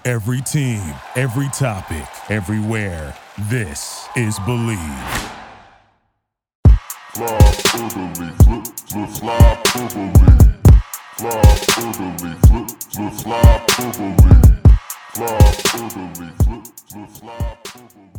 Every team, every topic, everywhere. This is Believe. Fly through the leaf, flip, fly through the leaf. Fly through the leaf, flip, fly through the leaf. Fly through the leaf, flip, fly through the leaf.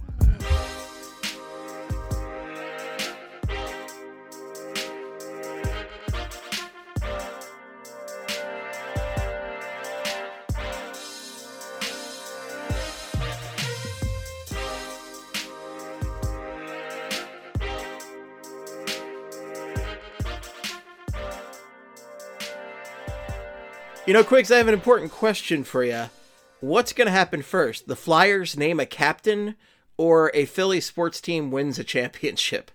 You know, Quiggs, I have an important question for you. What's going to happen first? The Flyers name a captain, or a Philly sports team wins a championship?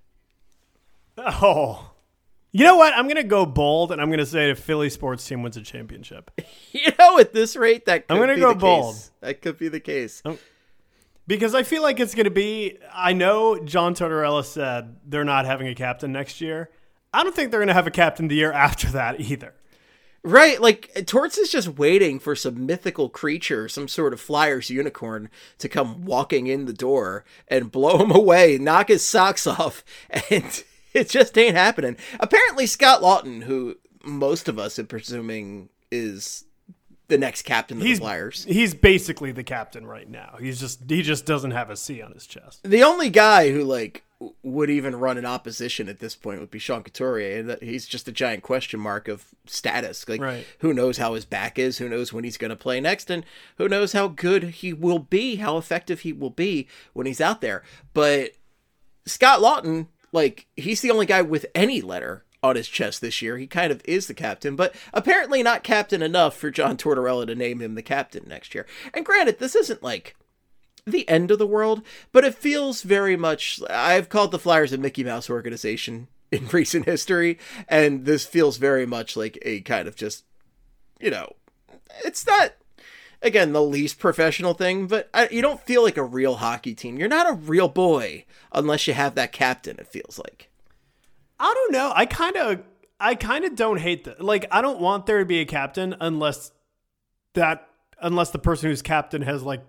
Oh. You know what? I'm going to go bold, and I'm going to say the Philly sports team wins a championship. You know, at this rate, that could I'm gonna be go the bold. case. That could be the case. Because I feel like it's going to be, I know John Tortorella said they're not having a captain next year. I don't think they're going to have a captain the year after that either. Right, like, Torts is just waiting for some mythical creature, some sort of Flyers unicorn, to come walking in the door and blow him away, knock his socks off, and it just ain't happening. Apparently, Scott Lawton, who most of us are presuming is the next captain of the Flyers. He's basically the captain right now. He just doesn't have a C on his chest. The only guy who, like, would even run in opposition at this point would be Sean Couturier, and he's just a giant question mark of status. Like, right. Who knows how his back is, who knows when he's going to play next, and who knows how good he will be, how effective he will be when he's out there. But Scott Lawton, like, he's the only guy with any letter on his chest this year. He kind of is the captain, but apparently not captain enough for John Tortorella to name him the captain next year. And granted, this isn't like the end of the world, but it feels very much, I've called the Flyers a Mickey Mouse organization in recent history, and this feels very much like a kind of just, you know, it's not, again, the least professional thing, but you don't feel like a real hockey team. You're not a real boy unless you have that captain, it feels like. I don't know. I kind of don't hate that. Like, I don't want there to be a captain unless the person who's captain has, like,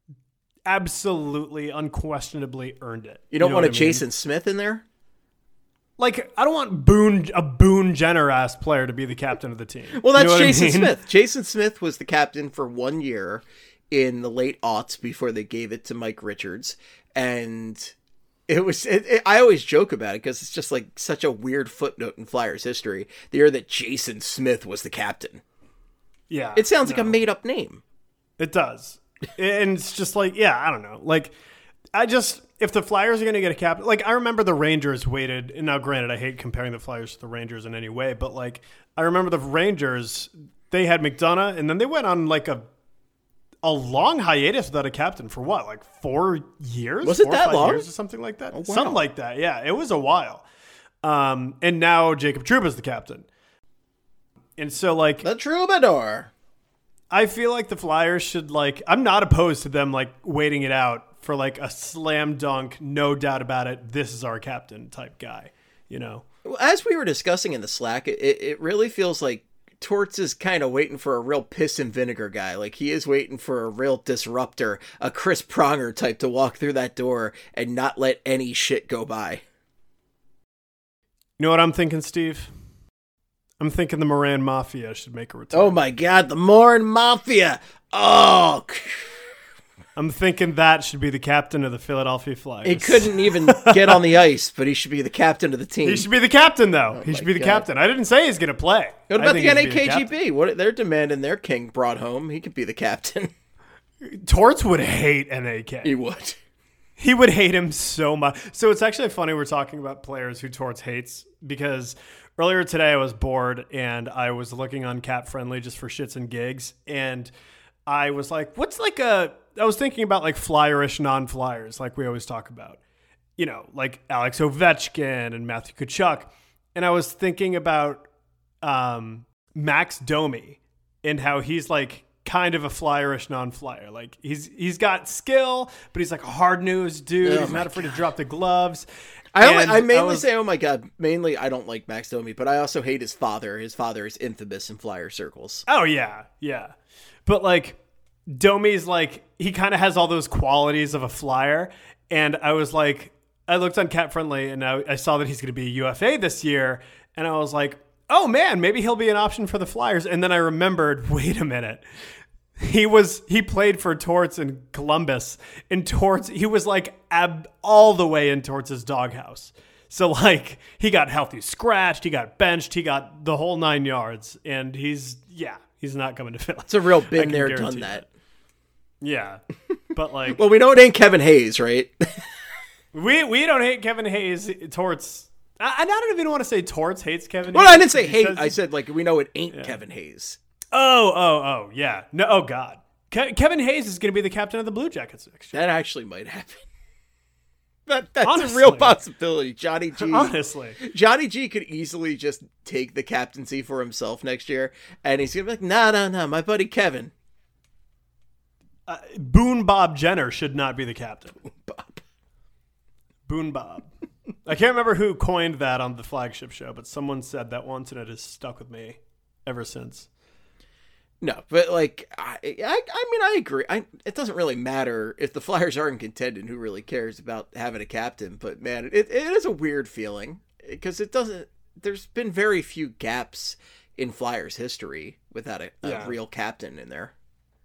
absolutely unquestionably earned it. You don't know want a what I mean? Jason Smith in there? Like, I don't want a Boone Jenner-ass player to be the captain of the team. Well, that's you know Jason I mean? Smith. Jason Smith was the captain for 1 year in the late aughts before they gave it to Mike Richards. And it was, I always joke about it because it's just like such a weird footnote in Flyers history. The year that Jason Smith was the captain. Yeah. It sounds like a made up name. It does. And it's just like, yeah, I don't know. Like, if the Flyers are going to get a captain, like, I remember the Rangers waited, and now granted, I hate comparing the Flyers to the Rangers in any way, but like, I remember the Rangers, they had McDonough, and then they went on like a long hiatus without a captain for what, like 4 years? Was it that 5 long? years or something like that? Oh, wow. Something like that, yeah. It was a while. And now Jacob Trouba's the captain. And so, like, The Troubadour. I feel like the Flyers should, like, I'm not opposed to them, like, waiting it out for, like, a slam dunk, no doubt about it, this is our captain type guy, you know? As we were discussing in the Slack, it really feels like Torts is kind of waiting for a real piss and vinegar guy. Like, he is waiting for a real disruptor, a Chris Pronger type to walk through that door and not let any shit go by. You know what I'm thinking, Steve? I'm thinking the Moran Mafia should make a return. Oh my God, the Morin Mafia. Oh, I'm thinking that should be the captain of the Philadelphia Flyers. he couldn't even get on the ice, but he should be the captain of the team. He should be the captain, though. He should my be the God. captain. I didn't say he's going to play. What I about the think he should be captain. NAKGB? What they're demanding their king brought home. He could be the captain. Torts would hate NAK. He would. He would hate him so much. So it's actually funny we're talking about players who Torts hates, because earlier today I was bored and I was looking on Cap Friendly just for shits and gigs, and I was like, I was thinking about like Flyerish non-Flyers, like we always talk about, you know, like Alex Ovechkin and Matthew Tkachuk. And I was thinking about Max Domi and how he's like kind of a Flyerish non-Flyer. Like he's got skill, but he's like a hard-nosed dude. He's not afraid to drop the gloves. I mainly say, oh my God, mainly I don't like Max Domi, but I also hate his father. His father is infamous in Flyer circles. Oh, yeah, yeah. But, like, Domi's like, he kind of has all those qualities of a Flyer. And I was like, I looked on Cap Friendly and I saw that he's going to be a UFA this year. And I was like, oh man, maybe he'll be an option for the Flyers. And then I remembered, wait a minute. He played for Torts in Columbus. In Torts, he was like all the way in Torts' doghouse. So like he got healthy scratched, he got benched, he got the whole 9 yards. And he's not coming to Philly. It's a real been there, done that. Yeah. But like, well, we know it ain't Kevin Hayes, right? we don't hate Kevin Hayes. Torts. I don't even want to say Torts hates Kevin Well, Hayes. I didn't say hate. I said like we know it ain't Kevin Hayes. Oh, yeah. No, oh God. Kevin Hayes is going to be the captain of the Blue Jackets next year. That actually might happen. That's Honestly. a real possibility. Johnny G. Honestly. Johnny G could easily just take the captaincy for himself next year, and he's going to be like, no, my buddy Kevin. Boone Bob Jenner should not be the captain. Boone Bob. I can't remember who coined that on the flagship show, but someone said that once, and it has stuck with me ever since. No, but like, I mean, I agree. It doesn't really matter if the Flyers aren't contending. Who really cares about having a captain? But man, it is a weird feeling because it doesn't. There's been very few gaps in Flyers history without a real captain in there.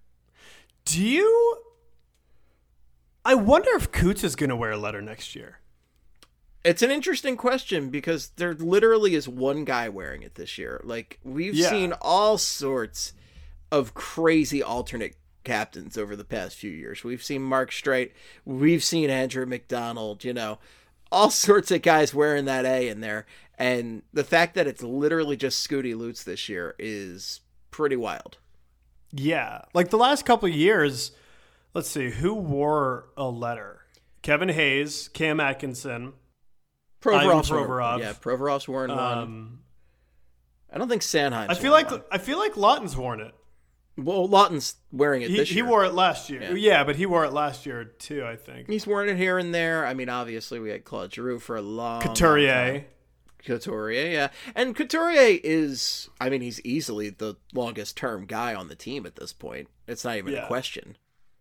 I wonder if Coots is going to wear a letter next year. It's an interesting question because there literally is one guy wearing it this year. Like, we've seen all sorts of crazy alternate captains over the past few years. We've seen Mark Streit. We've seen Andrew McDonald, all sorts of guys wearing that A in there. And the fact that it's literally just Scooty Lutz this year is pretty wild. Yeah. Like the last couple of years, let's see, who wore a letter? Kevin Hayes, Cam Atkinson, Provorov. Yeah, Provorov's worn one. I don't think Sanheim's I feel like Lawton's worn it. Well, Lawton's wearing it this year. He wore it last year. Yeah, but he wore it last year too, I think. He's worn it here and there. I mean, obviously we had Claude Giroux for a long Couturier. Couturier, yeah. And Couturier is, I mean, he's easily the longest term guy on the team at this point. It's not even a question.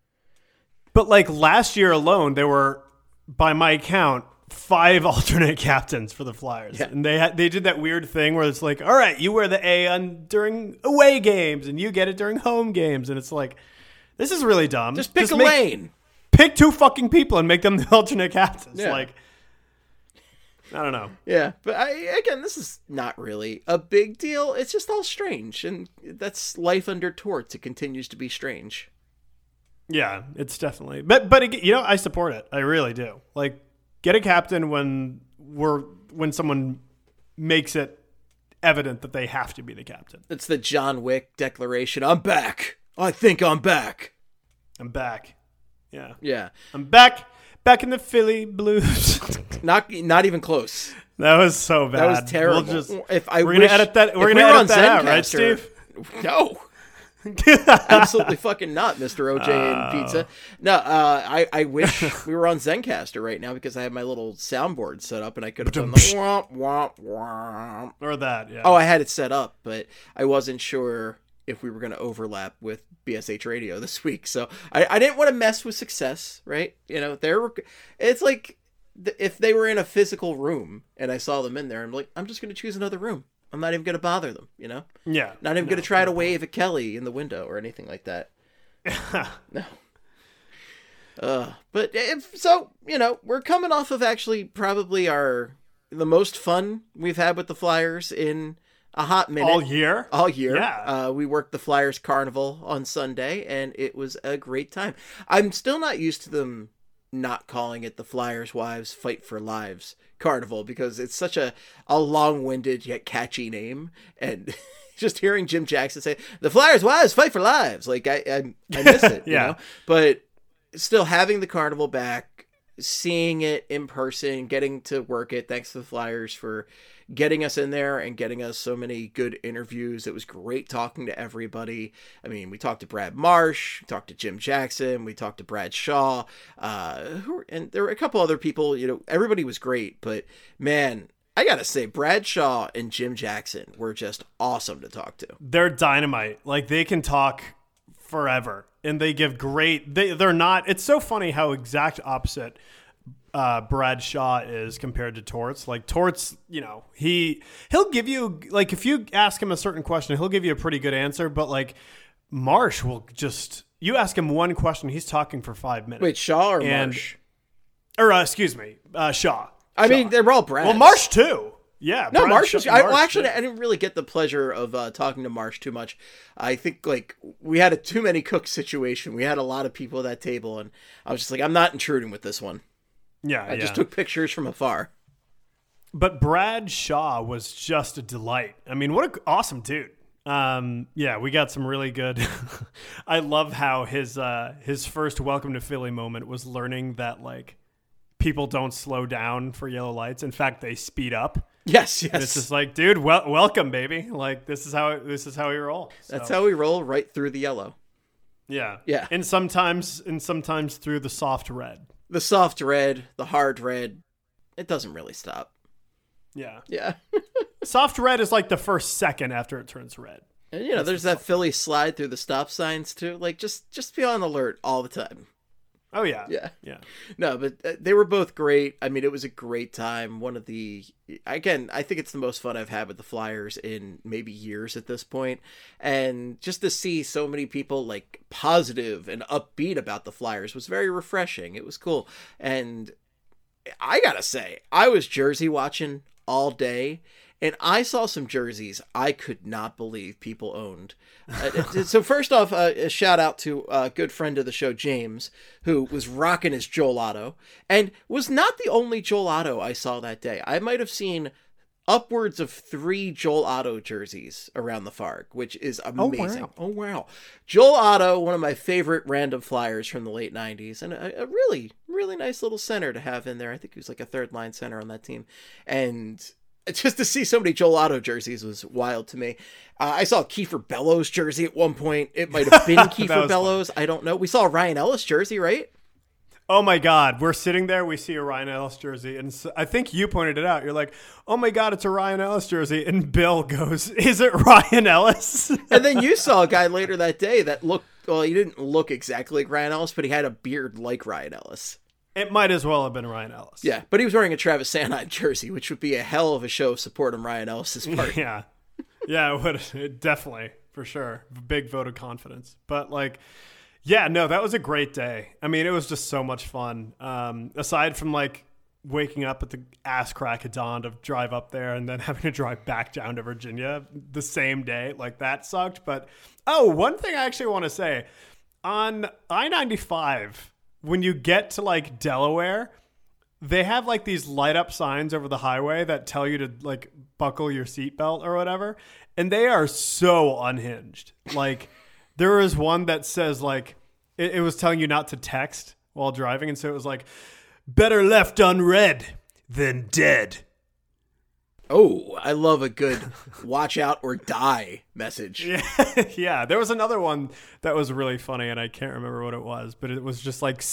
But like last year alone, there were, by my count, 5 alternate captains for the Flyers. Yeah. And they did that weird thing where it's like, all right, you wear the A during away games and you get it during home games. And it's like, this is really dumb. Just pick a lane. Pick 2 fucking people and make them the alternate captains. Yeah. Like, I don't know. Yeah, but again, this is not really a big deal. It's just all strange. And that's life under Torts. It continues to be strange. Yeah, it's definitely. But I support it. I really do. Like, get a captain when someone makes it evident that they have to be the captain. It's the John Wick declaration. I'm back. I think I'm back. I'm back. Yeah. Yeah. I'm back in the Philly Blues. Not even close. That was so bad. That was terrible. We're gonna edit that. We're gonna edit that out, right, Steve? No. Absolutely fucking not, Mr. OJ and Pizza. No, I wish we were on Zencaster right now because I have my little soundboard set up and I could have done the womp, womp, womp. Or that, yeah. Oh, I had it set up, but I wasn't sure if we were going to overlap with BSH Radio this week. So I didn't want to mess with success, right? It's like if they were in a physical room and I saw them in there, I'm like, I'm just going to choose another room. I'm not even going to bother them, Yeah. Not even going to try to wave at Kelly in the window or anything like that. No. But we're coming off of actually probably the most fun we've had with the Flyers in a hot minute. All year? Yeah. We worked the Flyers Carnival on Sunday, and it was a great time. I'm still not used to them not calling it the Flyers Wives Fight for Lives Carnival because it's such a long-winded yet catchy name, and just hearing Jim Jackson say the Flyers Wives Fight for Lives, like I miss it. Yeah. But still having the carnival back, seeing it in person, getting to work it, thanks to the Flyers for getting us in there and getting us so many good interviews. It was great talking to everybody. I mean, we talked to Brad Marsh, we talked to Jim Jackson, we talked to Brad Shaw, and there were a couple other people. Everybody was great, but man, I gotta say, Brad Shaw and Jim Jackson were just awesome to talk to. They're dynamite. Like, they can talk forever. and they give great. They're not. It's so funny how exact opposite Brad Shaw is compared to Torts. Like Torts, he'll give you, like, if you ask him a certain question, he'll give you a pretty good answer. But like Marsh will just, you ask him one question, he's talking for 5 minutes. Wait, Shaw or Marsh? Or excuse me, Shaw. I mean, they're all Brads. Well, Marsh too. Yeah. No, Marsh. I too. didn't really get the pleasure of talking to Marsh too much. I think like we had a too many cooks situation. We had a lot of people at that table, and I was just like, I'm not intruding with this one. Yeah, I just took pictures from afar. But Brad Shaw was just a delight. I mean, what an awesome dude. We got some really good. I love how his first welcome to Philly moment was learning that like people don't slow down for yellow lights. In fact, they speed up. Yes. And it's just like, dude, welcome, baby. Like this is how we roll. So, that's how we roll, right through the yellow. Yeah. Yeah. And sometimes through the soft red. The soft red, the hard red, it doesn't really stop. Yeah. Yeah. Soft red is like the first second after it turns red. And there's that Philly slide through the stop signs too. Like just be on alert all the time. Oh yeah. Yeah. No, but they were both great. I mean, it was a great time. I think it's the most fun I've had with the Flyers in maybe years at this point. And just to see so many people like positive and upbeat about the Flyers was very refreshing. It was cool. And I gotta say, I was jersey watching all day, and I saw some jerseys I could not believe people owned. So first off, a shout out to a good friend of the show, James, who was rocking his Joel Otto, and was not the only Joel Otto I saw that day. I might have seen upwards of 3 Joel Otto jerseys around the Farg, which is amazing. Oh, wow. Joel Otto, one of my favorite random Flyers from the late 90s, and a really, really nice little center to have in there. I think he was like a third line center on that team. And just to see so many Joel Otto jerseys was wild to me. I saw a Kiefer Bellows jersey at one point. It might have been Kiefer Bellows. Fun. I don't know. We saw a Ryan Ellis jersey, right? Oh my God. We're sitting there. We see a Ryan Ellis jersey. And so, I think you pointed it out. You're like, oh my God, it's a Ryan Ellis jersey. And Bill goes, is it Ryan Ellis? And then you saw a guy later that day that looked, well, he didn't look exactly like Ryan Ellis, but he had a beard like Ryan Ellis. It might as well have been Ryan Ellis. Yeah, but he was wearing a Travis Sanheim jersey, which would be a hell of a show of support on Ryan Ellis's part. Yeah, it would. It definitely, for sure. Big vote of confidence. But like, yeah, no, that was a great day. I mean, it was just so much fun. Aside from like waking up at the ass crack of dawn to drive up there and then having to drive back down to Virginia the same day, like that sucked. But, one thing I actually want to say. On I-95, when you get to like Delaware, they have like these light up signs over the highway that tell you to like buckle your seatbelt or whatever. And they are so unhinged. Like there is one that says like, it was telling you not to text while driving. And so it was like, better left unread than dead. Oh, I love a good watch out or die message. Yeah, there was another one that was really funny, and I can't remember what it was, but it was just like,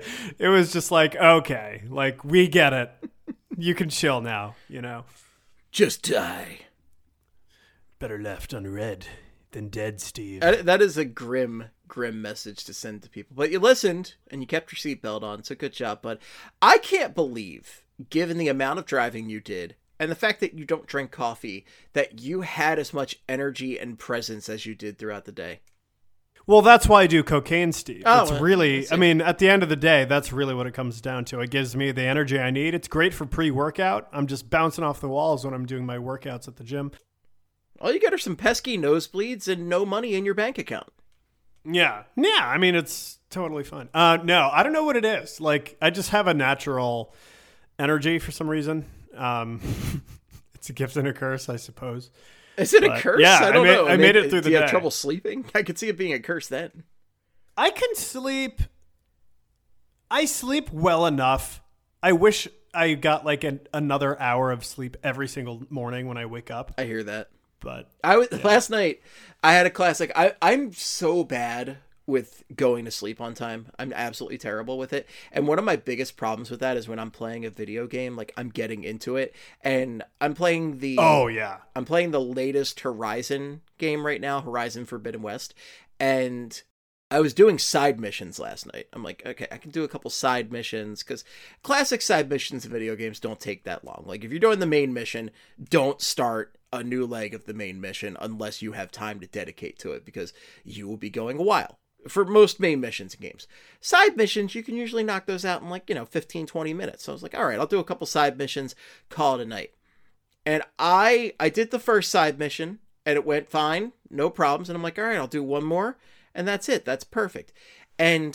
okay, like, we get it. You can chill now, Just die. Better left unread than dead, Steve. That is a grim message to send to people. But you listened, and you kept your seatbelt on, so good job, bud. I can't believe, given the amount of driving you did, and the fact that you don't drink coffee, that you had as much energy and presence as you did throughout the day. Well, that's why I do cocaine, Steve. Oh, it's really, I mean, at the end of the day, that's really what it comes down to. It gives me the energy I need. It's great for pre-workout. I'm just bouncing off the walls when I'm doing my workouts at the gym. All you get are some pesky nosebleeds and no money in your bank account. Yeah. I mean, it's totally fine. No, I don't know what it is. Like, I just have a natural energy for some reason. It's a gift and a curse, I suppose. Is it a curse? Yeah, I don't know. I made it through the day. Do you have trouble sleeping? I could see it being a curse then. I can sleep. I sleep well enough. I wish I got like another hour of sleep every single morning when I wake up. I hear that. But last night I had a class. Like I'm so bad with going to sleep on time. I'm absolutely terrible with it. And one of my biggest problems with that is when I'm playing a video game, like I'm getting into it and I'm playing I'm playing the latest Horizon game right now, Horizon Forbidden West. And I was doing side missions last night. I'm like, okay, I can do a couple side missions because classic side missions in video games don't take that long. Like if you're doing the main mission, don't start a new leg of the main mission unless you have time to dedicate to it because you will be going a while for most main missions in games. Side missions, you can usually knock those out in like, 15, 20 minutes. So I was like, all right, I'll do a couple side missions, call it a night. And I did the first side mission and it went fine, no problems. And I'm like, all right, I'll do one more. And that's it. That's perfect. And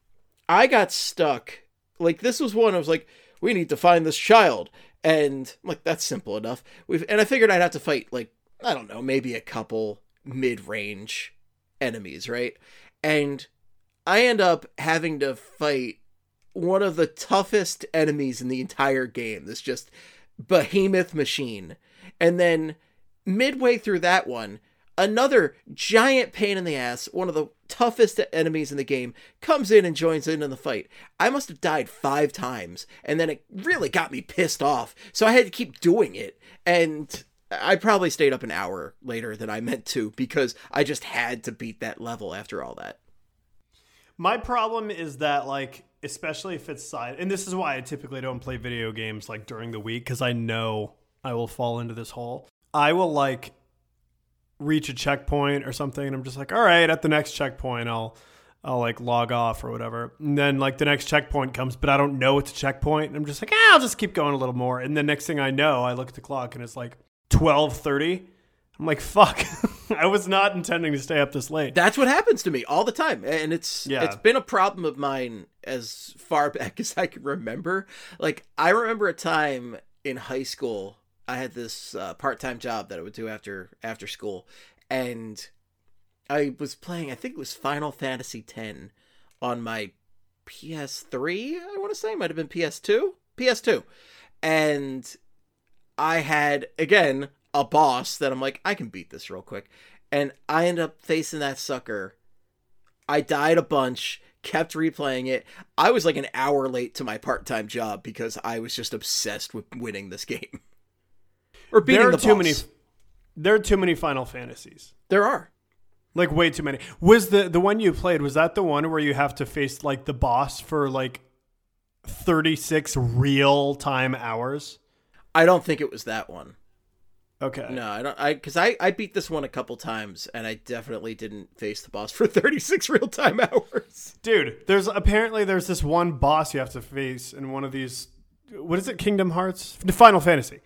I got stuck. Like, this was one I was like, we need to find this child. And I'm like, that's simple enough. And I figured I'd have to fight, like, I don't know, maybe a couple mid-range enemies, right? And I end up having to fight one of the toughest enemies in the entire game. This just behemoth machine. And then midway through that one, another giant pain in the ass, one of the toughest enemies in the game, comes in and joins in the fight. I must have died 5 times, and then it really got me pissed off, so I had to keep doing it, and I probably stayed up an hour later than I meant to, because I just had to beat that level after all that. My problem is that, like, especially if it's side, and this is why I typically don't play video games, like, during the week, because I know I will fall into this hole. I will, like, reach a checkpoint or something and I'm just like, all right, at the next checkpoint I'll like log off or whatever, and then like the next checkpoint comes but I don't know it's a checkpoint and I'm just like, I'll just keep going a little more, and the next thing I know I look at the clock and it's like 12:30. I'm like, fuck. I was not intending to stay up this late. That's what happens to me all the time, and it's been a problem of mine as far back as I can remember. Like, I remember a time in high school I had this part-time job that I would do after school, and I was playing, I think it was Final Fantasy X on my PS3, I want to say, might have been PS2, and I had, again, a boss that I'm like, I can beat this real quick, and I end up facing that sucker. I died a bunch, kept replaying it. I was like an hour late to my part-time job because I was just obsessed with winning this game. Or beating the boss. There are too many Final Fantasies. There are. Like, way too many. Was the one you played, was that the one where you have to face, like, the boss for, like, 36 real-time hours? I don't think it was that one. Okay. No, I don't. Because I beat this one a couple times, and I definitely didn't face the boss for 36 real-time hours. Dude, there's this one boss you have to face in one of these, what is it, Kingdom Hearts? Final Fantasy.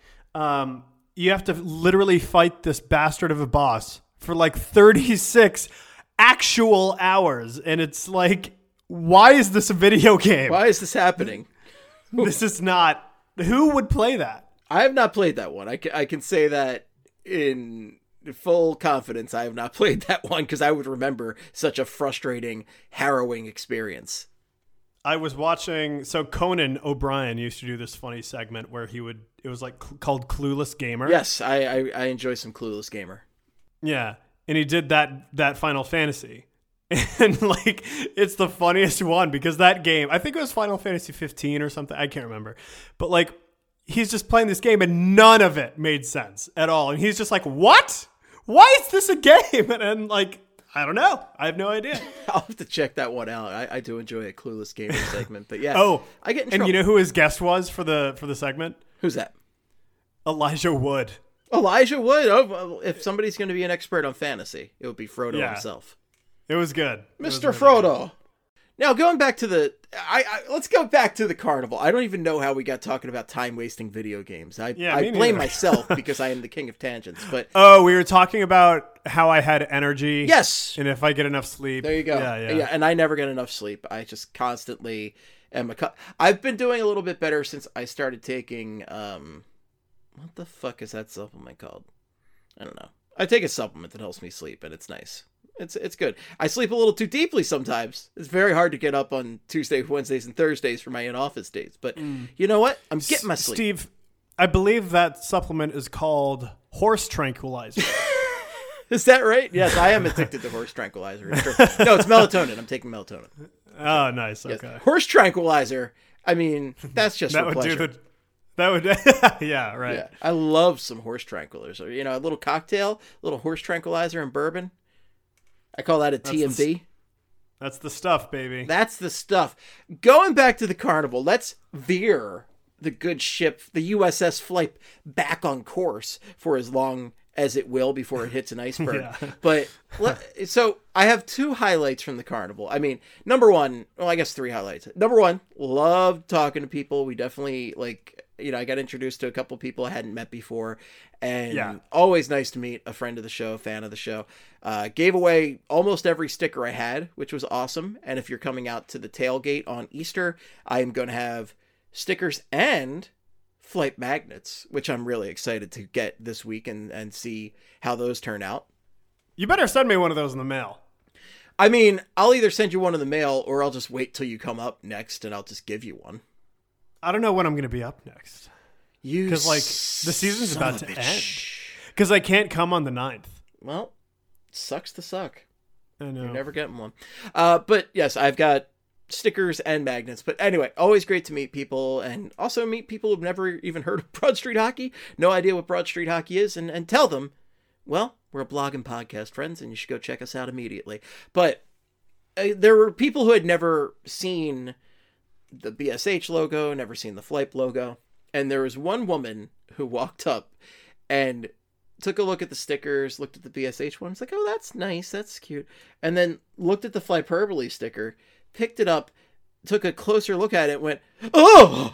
You have to literally fight this bastard of a boss for like 36 actual hours. And it's like, why is this a video game? Why is this happening? This is not, who would play that? I have not played that one. I can say that in full confidence. I have not played that one because I would remember such a frustrating, harrowing experience. I was watching, so Conan O'Brien used to do this funny segment where it was like called Clueless Gamer. Yes, I enjoy some Clueless Gamer. Yeah, and he did that Final Fantasy. And like, it's the funniest one because that game, I think it was Final Fantasy 15 or something, I can't remember. But like, he's just playing this game and none of it made sense at all. And he's just like, what? Why is this a game? And like, I don't know. I have no idea. I'll have to check that one out. I do enjoy a Clueless Gamer segment, but yeah. Oh, I get in and trouble. you know who his guest was for the segment? Who's that? Elijah Wood. Elijah Wood. Oh, well, if somebody's going to be an expert on fantasy, it would be Frodo himself. It was good. Mr. Frodo. Good. Now, going back to let's go back to the carnival. I don't even know how we got talking about time-wasting video games. I blame myself because I am the king of tangents. But we were talking about how I had energy. Yes. And if I get enough sleep. There you go. Yeah, and I never get enough sleep. I just constantly am I've been doing a little bit better since I started taking, what the fuck is that supplement called? I don't know. I take a supplement that helps me sleep, and it's nice. It's good. I sleep a little too deeply sometimes. It's very hard to get up on Tuesdays, Wednesdays, and Thursdays for my in-office days. But you know what? I'm getting my sleep. Steve, I believe that supplement is called horse tranquilizer. Is that right? Yes, I am addicted to horse tranquilizer. No, it's melatonin. I'm taking melatonin. Oh, nice. Yes. Okay. Horse tranquilizer. I mean, that's just that for would pleasure. That would, yeah, right. Yeah, I love some horse tranquilizer. You know, a little cocktail, a little horse tranquilizer and bourbon. I call that a TMB. That's the stuff, baby. That's the stuff. Going back to the carnival, let's veer the good ship, the USS Flight, back on course for as long as it will before it hits an iceberg. Yeah. But so I have two highlights from the carnival. I mean, number one, well, I guess three highlights. Number one, loved talking to people. We definitely I got introduced to a couple people I hadn't met before, and always nice to meet a friend of the show, fan of the show. Gave away almost every sticker I had, which was awesome. And if you're coming out to the tailgate on Easter, I am going to have stickers and flight magnets, which I'm really excited to get this week and see how those turn out. You better send me one of those in the mail. I mean, I'll either send you one in the mail or I'll just wait till you come up next and I'll just give you one. I don't know when I'm going to be up next. Because, the season's about to end. Because I can't come on the 9th. Well, sucks to suck. I know. You're never getting one. But yes, I've got stickers and magnets. But anyway, always great to meet people and also meet people who've never even heard of Broad Street Hockey, no idea what Broad Street Hockey is, and tell them, well, we're a blog and podcast, friends, and you should go check us out immediately. But there were people who had never seen the BSH logo, never seen the Flight logo. And there was one woman who walked up and took a look at the stickers, looked at the BSH one. It's like, oh, that's nice. That's cute. And then looked at the Flyperbole sticker, picked it up, took a closer look at it, and went, oh!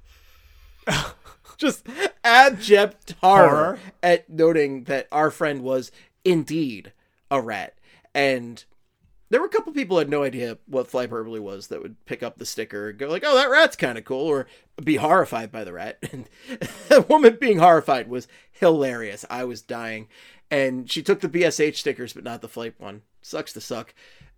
Just abject horror at noting that our friend was indeed a rat. And there were a couple people who had no idea what Flyperbole was that would pick up the sticker and go like, oh, that rat's kind of cool, or be horrified by the rat. And the woman being horrified was hilarious. I was dying. And she took the BSH stickers, but not the Flight one. Sucks to suck.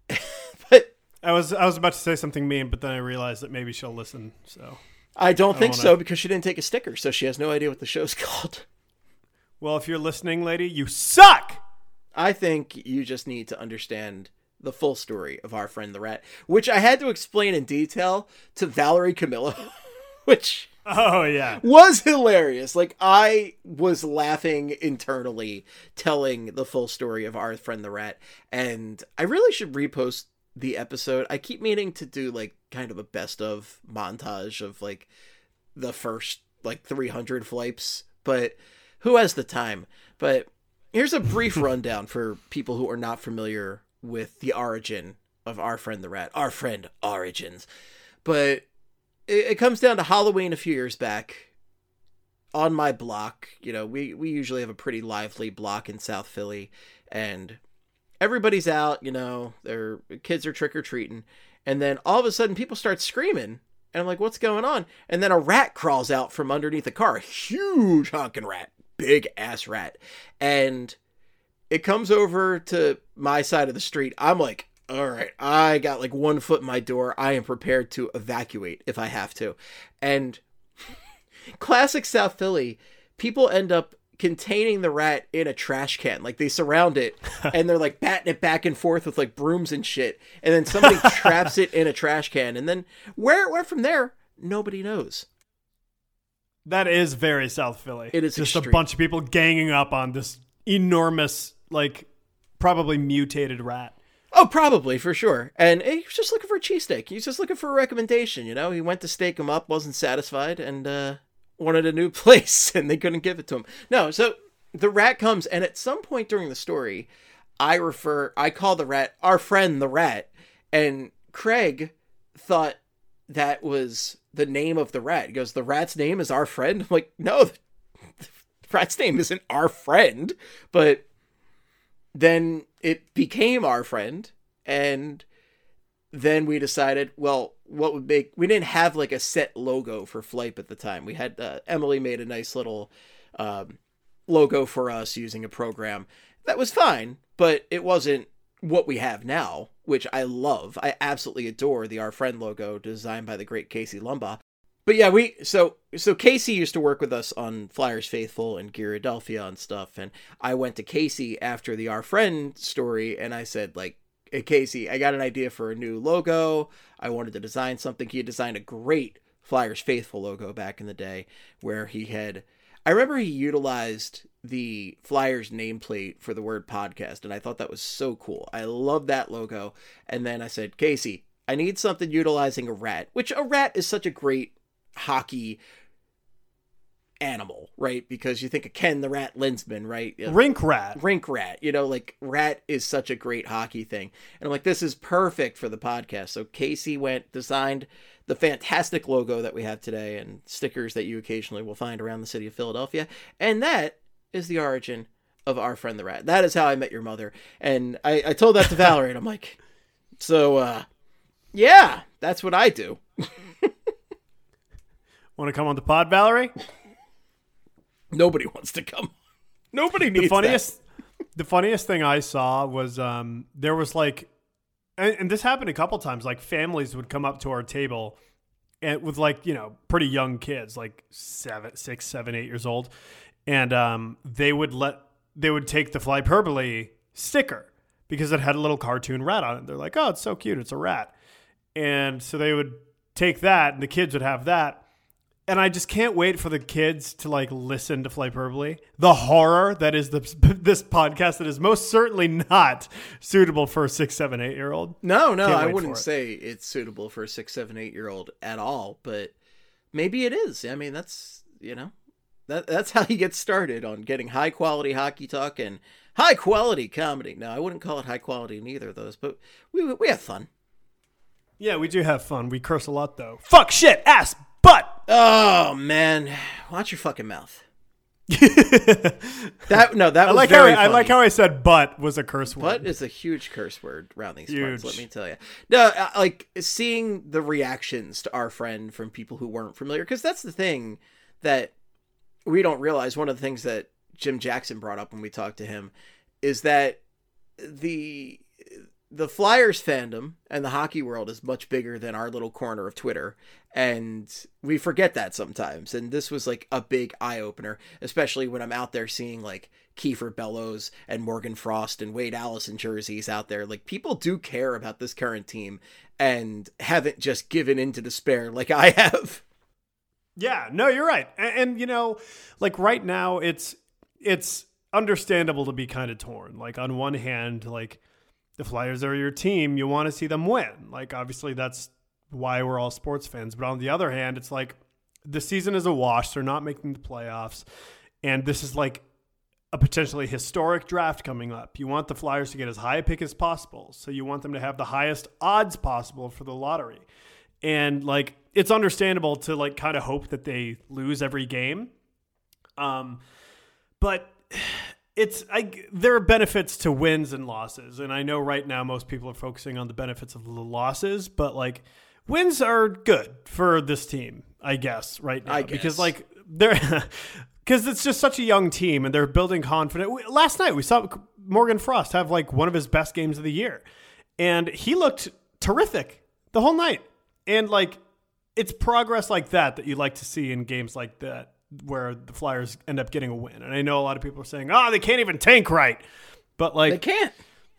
But I was about to say something mean, but then I realized that maybe she'll listen. So I don't think so, because she didn't take a sticker, so she has no idea what the show's called. Well, if you're listening, lady, you suck! I think you just need to understand the full story of our friend the rat, which I had to explain in detail to Valerie Camillo, which was hilarious. Like, I was laughing internally telling the full story of our friend the rat, and I really should repost the episode. I keep meaning to do like kind of a best of montage of like the first like 300 flights, but who has the time? But here's a brief rundown for people who are not familiar with the origin of our friend the rat, our friend Origins. But it comes down to Halloween a few years back on my block. You know, we usually have a pretty lively block in South Philly, and everybody's out, you know, their kids are trick-or-treating, and then all of a sudden people start screaming, and I'm like, what's going on? And then a rat crawls out from underneath a car, a huge honking rat, big ass rat, and it comes over to my side of the street. I'm like, all right, I got like 1 foot in my door. I am prepared to evacuate if I have to. And classic South Philly, people end up containing the rat in a trash can. Like, they surround it and they're like batting it back and forth with like brooms and shit. And then somebody traps it in a trash can. And then where it went from there, nobody knows. That is very South Philly. It is just extreme. A bunch of people ganging up on this enormous, like, probably mutated rat. Oh, probably, for sure. And he was just looking for a cheesesteak. He was just looking for a recommendation, you know? He went to stake him up, wasn't satisfied, and wanted a new place, and they couldn't give it to him. No, so the rat comes, and at some point during the story, I call the rat our friend the rat, and Craig thought that was the name of the rat. He goes, the rat's name is our friend? I'm like, no, the rat's name isn't our friend, but then it became our friend, and then we decided, well, we didn't have like a set logo for Flight at the time. We had, Emily made a nice little logo for us using a program that was fine, but it wasn't what we have now, which I love. I absolutely adore the Our Friend logo designed by the great Casey Lumbaugh. But yeah, so Casey used to work with us on Flyers Faithful and Gyaradelphia and stuff, and I went to Casey after the Our Friend story, and I said, like, hey, Casey, I got an idea for a new logo. I wanted to design something. He had designed a great Flyers Faithful logo back in the day, where he had I remember he utilized the Flyers nameplate for the word podcast, and I thought that was so cool. I love that logo. And then I said, Casey, I need something utilizing a rat, which a rat is such a great hockey animal, right? Because you think of Ken the Rat Linsman, right? Rink rat. Rink rat, like rat is such a great hockey thing. And I'm like, this is perfect for the podcast. So Casey designed the fantastic logo that we have today and stickers that you occasionally will find around the city of Philadelphia. And that is the origin of Our Friend the Rat. That is how I met your mother. And I told that to Valerie, and I'm like, so, yeah, that's what I do. Want to come on the pod, Valerie? Nobody wants to come. Nobody needs The funniest thing I saw was there was like, and this happened a couple times, like families would come up to our table and with like, pretty young kids, like 6, 7, 8 years old. And they would take the Flyperbole sticker because it had a little cartoon rat on it. They're like, oh, it's so cute. It's a rat. And so they would take that and the kids would have that. And I just can't wait for the kids to like listen to Flyperbole. The horror that is this podcast that is most certainly not suitable for a 6, 7, 8-year-old. No, I wouldn't say it's suitable for a 6, 7, 8-year-old at all. But maybe it is. I mean, that's that's how you get started on getting high quality hockey talk and high quality comedy. No, I wouldn't call it high quality in either of those, but we have fun. Yeah, we do have fun. We curse a lot though. Fuck, shit, ass, butt. Oh man, watch your fucking mouth. That was like very funny. I like how I said butt was a curse word. Butt is a huge curse word around these parts, let me tell you. No, like seeing the reactions to Our Friend from people who weren't familiar, because that's the thing that we don't realize. One of the things that Jim Jackson brought up when we talked to him is that the Flyers fandom and the hockey world is much bigger than our little corner of Twitter. And we forget that sometimes. And this was like a big eye opener, especially when I'm out there seeing like Kiefer Bellows and Morgan Frost and Wade Allison jerseys out there. Like people do care about this current team and haven't just given into despair like I have. Yeah, no, you're right. And like right now it's understandable to be kind of torn. Like on one hand, like the Flyers are your team. You want to see them win. Like, obviously, that's why we're all sports fans. But on the other hand, it's like the season is a wash. They're not making the playoffs. And this is like a potentially historic draft coming up. You want the Flyers to get as high a pick as possible. So you want them to have the highest odds possible for the lottery. And, like, it's understandable to, like, kind of hope that they lose every game. But there are benefits to wins and losses. And I know right now most people are focusing on the benefits of the losses, but like wins are good for this team, I guess, right now. Because like because it's just such a young team and they're building confidence. Last night we saw Morgan Frost have like one of his best games of the year and he looked terrific the whole night. And like, it's progress like that you like to see in games like that, where the Flyers end up getting a win. And I know a lot of people are saying, they can't even tank right. But like they can't.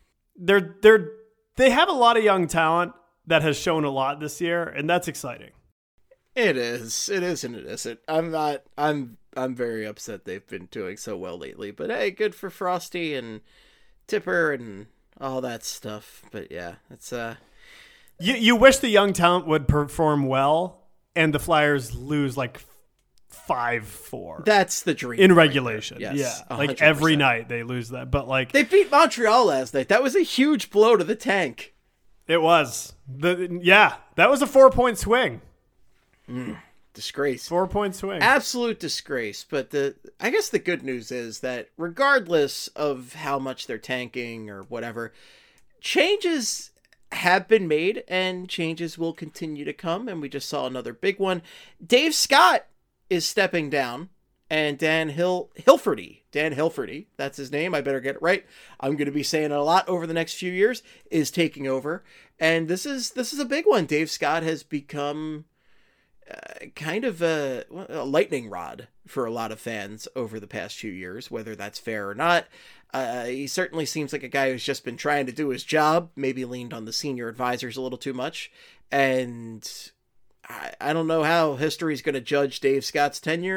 They have a lot of young talent that has shown a lot this year, and that's exciting. It is and it isn't. I'm very upset they've been doing so well lately. But hey, good for Frosty and Tipper and all that stuff. But yeah, it's you wish the young talent would perform well and the Flyers lose like 5-4. That's the dream in regulation. Right, yes, yeah, 100%. Like every night they lose that, but like they beat Montreal last night. That was a huge blow to the tank. It was that was a 4-point swing. Disgrace. 4-point swing. Absolute disgrace. But I guess the good news is that regardless of how much they're tanking or whatever, changes have been made and changes will continue to come. And we just saw another big one. Dave Scott is stepping down, and Dan Hilferty, that's his name, I better get it right, I'm going to be saying it a lot over the next few years, is taking over. And this is a big one. Dave Scott has become kind of a lightning rod for a lot of fans over the past few years, whether that's fair or not. He certainly seems like a guy who's just been trying to do his job, maybe leaned on the senior advisors a little too much, and I don't know how history's going to judge Dave Scott's tenure, but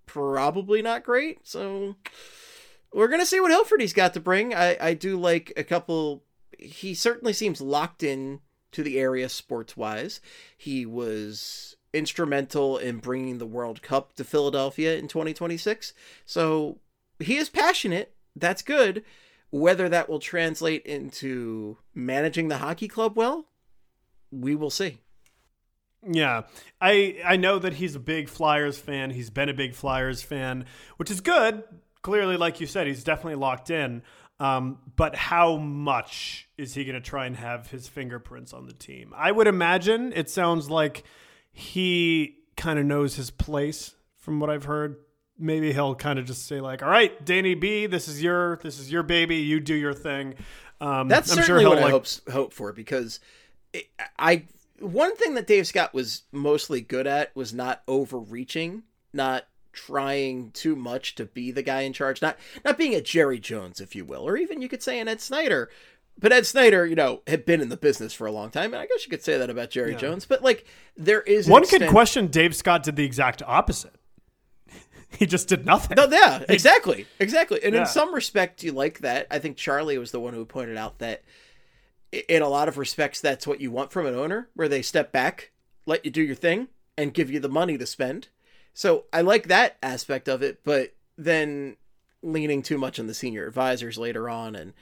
probably not great. So we're going to see what Hilferty's got to bring. I do like a couple. He certainly seems locked in to the area sports-wise. He was instrumental in bringing the World Cup to Philadelphia in 2026. So he is passionate. That's good. Whether that will translate into managing the hockey club well, we will see. Yeah, I know that he's a big Flyers fan. He's been a big Flyers fan, which is good. Clearly, like you said, he's definitely locked in. But how much is he going to try and have his fingerprints on the team? I would imagine it sounds like he kind of knows his place from what I've heard. Maybe he'll kind of just say like, all right, Danny B, this is your baby. You do your thing. That's I'm certainly sure what I hope for, because one thing that Dave Scott was mostly good at was not overreaching, not trying too much to be the guy in charge, not being a Jerry Jones, if you will, or even you could say an Ed Snyder. But Ed Snyder, had been in the business for a long time, and I guess you could say that about Jerry Jones. But like, there is one could question Dave Scott did the exact opposite. He just did nothing. No, yeah, exactly. And in some respect, you like that. I think Charlie was the one who pointed out that in a lot of respects, that's what you want from an owner, where they step back, let you do your thing, and give you the money to spend. So I like that aspect of it, but then leaning too much on the senior advisors later on, and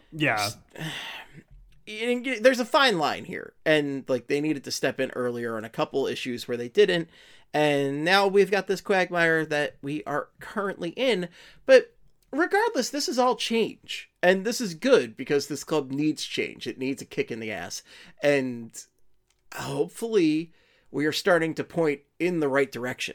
there's a fine line here, and like they needed to step in earlier on a couple issues where they didn't, and now we've got this quagmire that we are currently in. But regardless, this is all change, and this is good because this club needs change. It needs a kick in the ass, and hopefully we are starting to point in the right direction.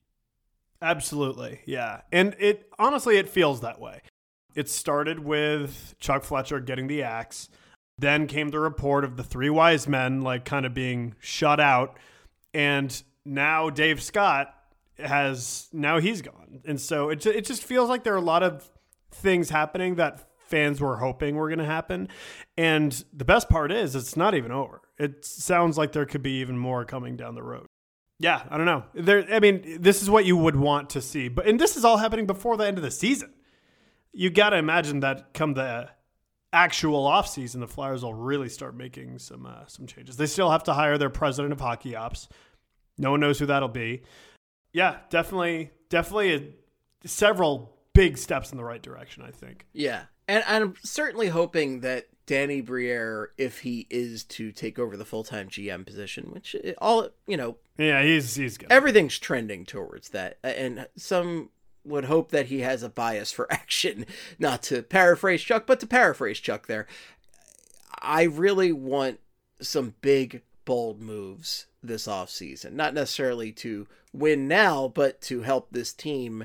Absolutely, yeah. And it honestly, it feels that way. It started with Chuck Fletcher getting the axe. Then came the report of the three wise men like kind of being shut out. And now Dave Scott he's gone. And so it just feels like there are a lot of things happening that fans were hoping were going to happen. And the best part is it's not even over. It sounds like there could be even more coming down the road. Yeah, I don't know. This is what you would want to see. And this is all happening before the end of the season. You got to imagine that come the actual offseason, the Flyers will really start making some changes. They still have to hire their president of hockey ops. No one knows who that'll be. Yeah, definitely several big steps in the right direction, I think. Yeah, and I'm certainly hoping that Danny Briere, if he is to take over the full-time GM position, which yeah, he's good. Everything's trending towards that, and some would hope that he has a bias for action, not to paraphrase Chuck, but to paraphrase Chuck there. I really want some big, bold moves this offseason, not necessarily to win now, but to help this team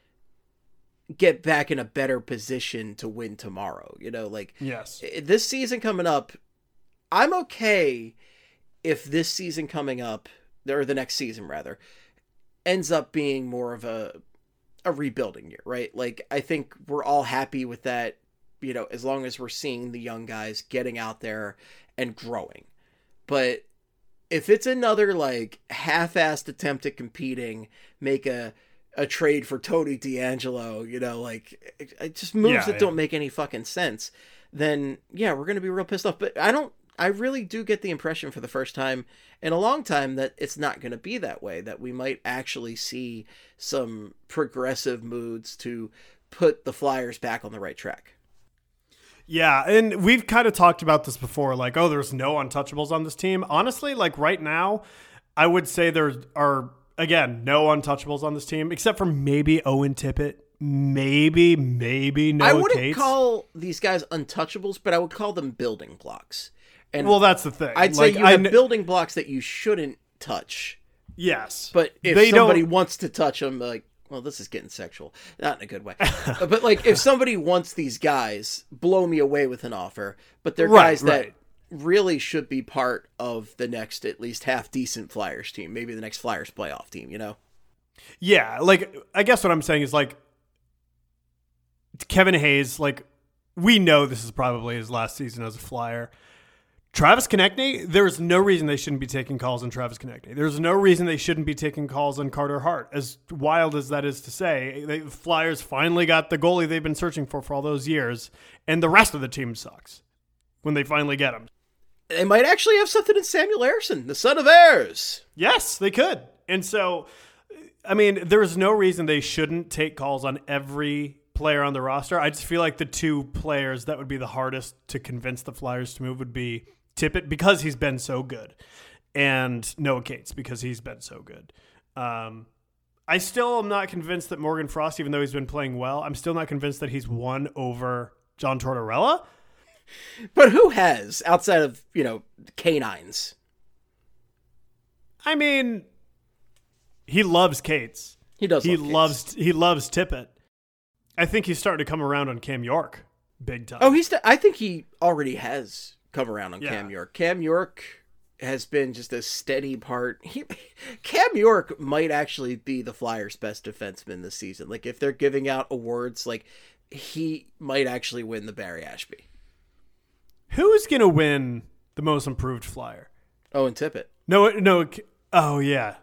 get back in a better position to win tomorrow. Yes. This season coming up, I'm okay if this season coming up, or the next season rather, ends up being more of a rebuilding year, right? Like, I think we're all happy with that, as long as we're seeing the young guys getting out there and growing. But if it's another like half-assed attempt at competing, make a trade for Tony DeAngelo, it just moves that don't make any fucking sense, then we're going to be real pissed off. But I really do get the impression for the first time in a long time that it's not going to be that way, that we might actually see some progressive moods to put the Flyers back on the right track. Yeah, and we've kind of talked about this before, like, there's no untouchables on this team. Honestly, like right now, I would say there are, again, no untouchables on this team, except for maybe Owen Tippett, maybe Noah I wouldn't Cates. call these guys untouchables, but I would call them building blocks. And well, that's the thing. I'd say you have building blocks that you shouldn't touch. Yes. But if somebody wants to touch them, like, well, this is getting sexual. Not in a good way. But like, if somebody wants these guys, blow me away with an offer. But they're guys that really should be part of the next, at least half-decent Flyers team. Maybe the next Flyers playoff team, Yeah, like, I guess what I'm saying is, like, Kevin Hayes, like, we know this is probably his last season as a Flyer. Travis Konechny, there's no reason they shouldn't be taking calls on Travis Konechny. There's no reason they shouldn't be taking calls on Carter Hart. As wild as that is to say, the Flyers finally got the goalie they've been searching for all those years, and the rest of the team sucks when they finally get him. They might actually have something in Samuel Ersson, the son of Ayers. Yes, they could. And so, I mean, there's no reason they shouldn't take calls on every player on the roster. I just feel like the two players that would be the hardest to convince the Flyers to move would be Tippett, because he's been so good, and Noah Cates, because he's been so good. I still am not convinced that Morgan Frost, even though he's been playing well, I'm still not convinced that he's won over John Tortorella. But who has, outside of, canines? I mean, he loves Cates. He does. He loves Tippett. I think he's starting to come around on Cam York big time. Oh, I think he already has come around on Cam York. Cam York has been just a steady part. Cam York might actually be the Flyers' best defenseman this season. Like, if they're giving out awards, like, he might actually win the Barry Ashby. Who's going to win the most improved Flyer? Owen Tippett. No. Oh, yeah.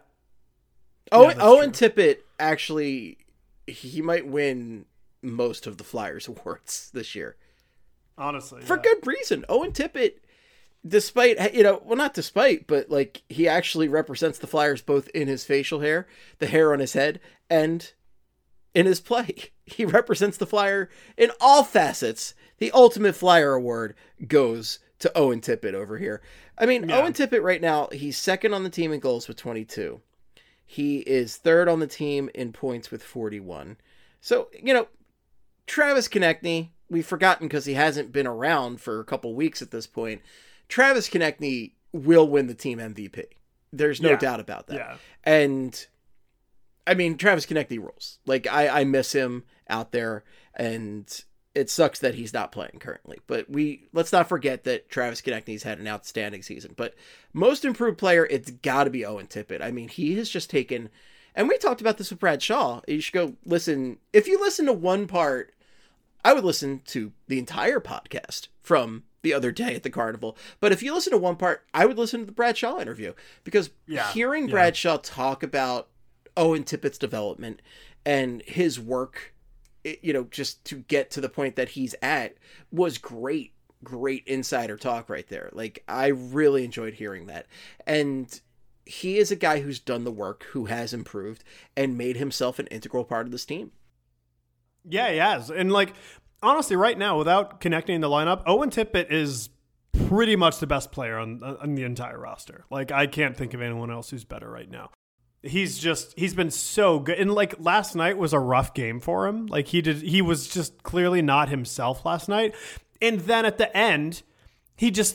Owen Tippett, actually, he might win most of the Flyers awards this year. Honestly. For good reason. Owen Tippett, despite, not despite, but like, he actually represents the Flyers both in his facial hair, the hair on his head, and in his play. He represents the Flyer in all facets. The ultimate Flyer award goes to Owen Tippett over here. I mean, yeah. Owen Tippett right now, he's second on the team in goals with 22. He is third on the team in points with 41. So, Travis Konechny, we've forgotten because he hasn't been around for a couple weeks at this point. Travis Konechny will win the team MVP. There's no doubt about that. Yeah. And I mean, Travis Konechny rules. Like, I miss him out there, and it sucks that he's not playing currently. But let's not forget that Travis Konechny's had an outstanding season. But most improved player, it's got to be Owen Tippett. I mean, he has just taken, and we talked about this with Brad Shaw. You should go listen. If you listen to one part, I would listen to the entire podcast from the other day at the Carnival. But if you listen to one part, I would listen to the Brad Shaw interview, because hearing Brad Shaw talk about Owen Tippett's development and his work, just to get to the point that he's at, was great insider talk right there. Like, I really enjoyed hearing that. And he is a guy who's done the work, who has improved and made himself an integral part of this team. Yeah, he has. And like, honestly, right now, without connecting the lineup, Owen Tippett is pretty much the best player on the entire roster. Like, I can't think of anyone else who's better right now. He's been so good. And like, last night was a rough game for him. Like, he was just clearly not himself last night. And then at the end, he just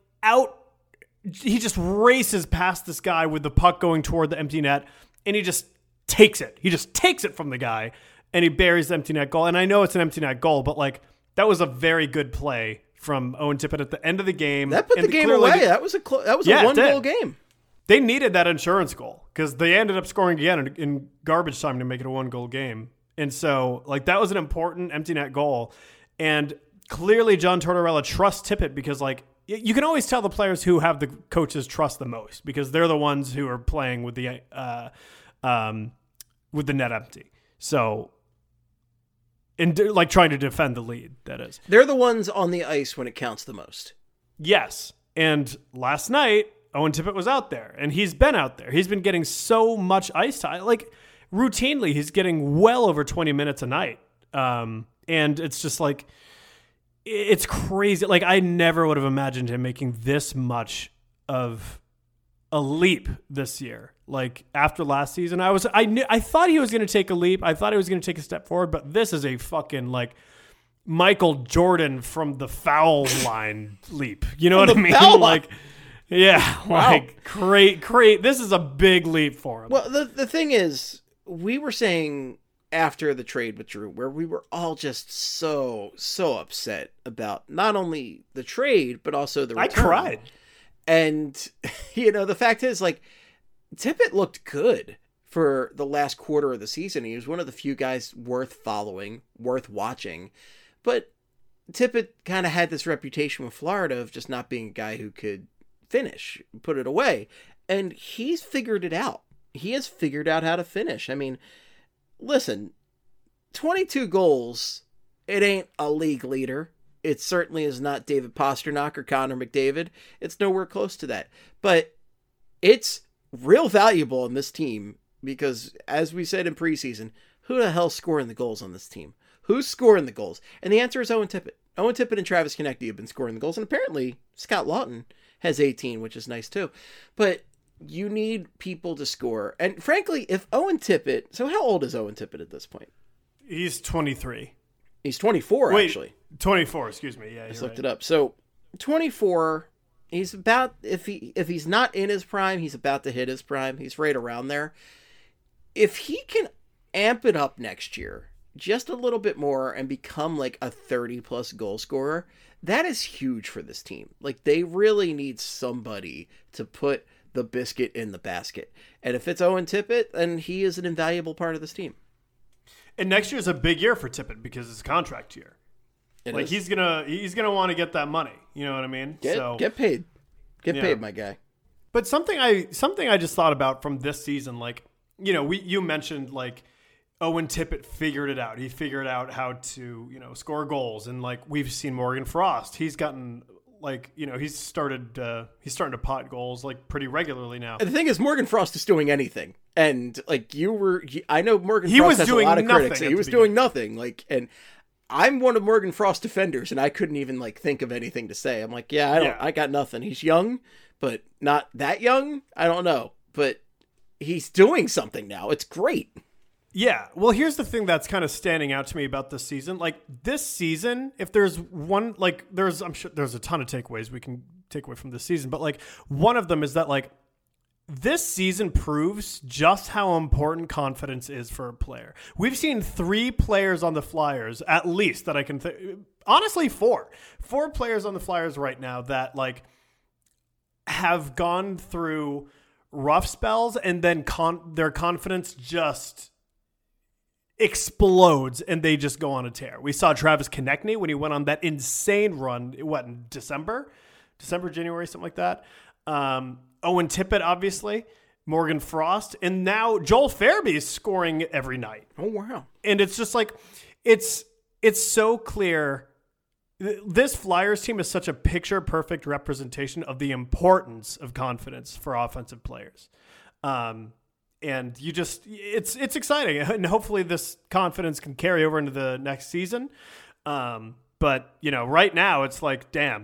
races past this guy with the puck going toward the empty net, and he just takes it. He just takes it from the guy, and he buries the empty net goal. And I know it's an empty net goal, but like, that was a very good play from Owen Tippett at the end of the game. That put the game away. That was a one-goal game. They needed that insurance goal, because they ended up scoring again in garbage time to make it a 1-goal game. And so, like, that was an important empty net goal. And clearly John Tortorella trusts Tippett, because, like, you can always tell the players who have the coaches trust the most, because they're the ones who are playing with the net empty. So, and like, trying to defend the lead, that is. They're the ones on the ice when it counts the most. Yes. And last night, Owen Tippett was out there, and he's been out there. He's been getting so much ice time. Like, routinely, he's getting well over 20 minutes a night. And it's just like, it's crazy. Like, I never would have imagined him making this much of a leap this year. Like, after last season, I thought he was going to take a leap. I thought he was going to take a step forward, but this is a fucking, like, Michael Jordan from the foul line leap. You know what I mean? Like, yeah, wow. Like, great. This is a big leap for him. Well, the thing is, we were saying after the trade with Drew, where we were all just so upset about not only the trade, but also the return. I cried. And, the fact is, like, Tippett looked good for the last quarter of the season. He was one of the few guys worth following, worth watching. But Tippett kind of had this reputation with Florida of just not being a guy who could finish, put it away. And he's figured it out. He has figured out how to finish. I mean, listen, 22 goals, it ain't a league leader. It certainly is not David Pastrnak or Connor McDavid. It's nowhere close to that. But it's real valuable in this team because, as we said in preseason, who the hell's scoring the goals on this team? Who's scoring the goals? And the answer is Owen Tippett. Owen Tippett and Travis Konecny have been scoring the goals. And apparently, Scott Lawton has 18, which is nice too. But you need people to score. And frankly, if Owen Tippett... So how old is Owen Tippett at this point? He's 23. He's 24, Wait, actually. 24, excuse me. Yeah, I just looked it up. So 24, he's about... If he's not in his prime, he's about to hit his prime. He's right around there. If he can amp it up next year just a little bit more and become like a 30-plus goal scorer, that is huge for this team. Like, they really need somebody to put the biscuit in the basket. And if it's Owen Tippett, then he is an invaluable part of this team. And next year's a big year for Tippett because it's a contract year. He's gonna want to get that money. You know what I mean? Get paid. Get paid, my guy. But something I just thought about from this season, like, you know, you mentioned like Owen Tippett figured it out. He figured out how to, you know, score goals. And like we've seen Morgan Frost, he's gotten like, you know, he's starting to pot goals like pretty regularly now. And the thing is, Morgan Frost is doing anything. And like I know Morgan Frost has a lot of critics. He was doing nothing. Like, and I'm one of Morgan Frost's defenders, and I couldn't even like think of anything to say. I'm like, I got nothing. He's young, but not that young. I don't know, but he's doing something now. It's great. Yeah. Well, here's the thing that's kind of standing out to me about this season. Like this season, if there's one, like I'm sure there's a ton of takeaways we can take away from this season, but like one of them is that like this season proves just how important confidence is for a player. We've seen 3 players on the Flyers, at least that I can honestly 4 players on the Flyers right now that like have gone through rough spells and then their confidence just explodes and they just go on a tear. We saw Travis Konecny when he went on that insane run, in December, January, something like that. Owen Tippett, obviously, Morgan Frost, and now Joel Farabee is scoring every night. Oh, wow. And it's just like, it's so clear. This Flyers team is such a picture-perfect representation of the importance of confidence for offensive players. And you just, it's exciting. And hopefully this confidence can carry over into the next season. But, you know, right now it's like, damn,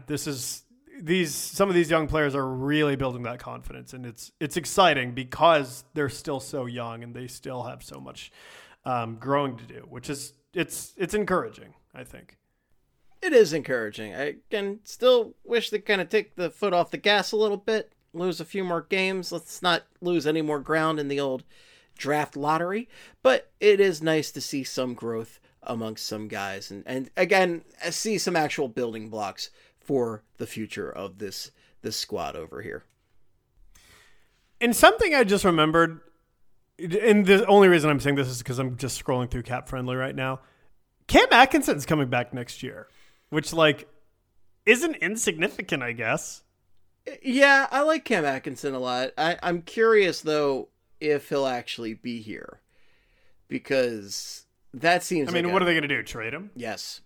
some of these young players are really building that confidence. And it's exciting because they're still so young and they still have so much growing to do, which is, it's encouraging, I think. It is encouraging. I can still wish they kind of take the foot off the gas a little bit. Lose a few more games. Let's not lose any more ground in the old draft lottery. But it is nice to see some growth amongst some guys. And again, see some actual building blocks for the future of this squad over here. And something I just remembered, and the only reason I'm saying this is because I'm just scrolling through Cap Friendly right now. Cam Atkinson's coming back next year, which like isn't insignificant, I guess. Yeah, I like Cam Atkinson a lot. I'm curious, though, if he'll actually be here. Because that seems what are they going to do, trade him? Yes.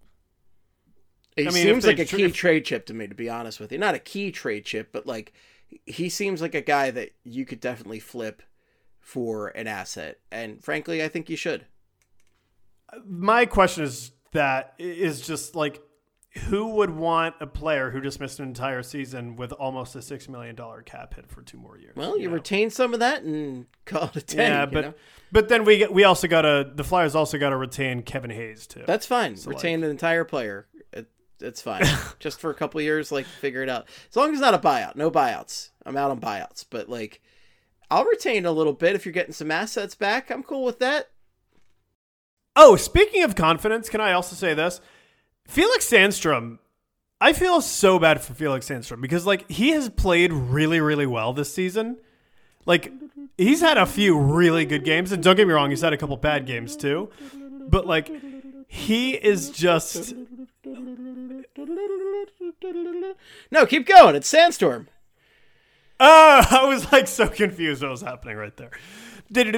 He seems like a key trade chip to me, to be honest with you. Not a key trade chip, but like he seems like a guy that you could definitely flip for an asset. And frankly, I think you should. My question is just like, who would want a player who just missed an entire season with almost a $6 million cap hit for 2 more years? Well, you retain some of that and call it a 10. Yeah, but then we also the Flyers also got to retain Kevin Hayes too. That's fine. So retain an entire player. It's fine. Just for a couple of years, like figure it out. As long as it's not a buyout. No buyouts. I'm out on buyouts. But like, I'll retain a little bit if you're getting some assets back. I'm cool with that. Oh, speaking of confidence, can I also say this? Felix Sandstrom, I feel so bad for Felix Sandstrom because like he has played really, really well this season. Like he's had a few really good games, and don't get me wrong, he's had a couple bad games too. But like He is just... No, keep going. It's Sandstorm. Oh, I was like so confused what was happening right there. That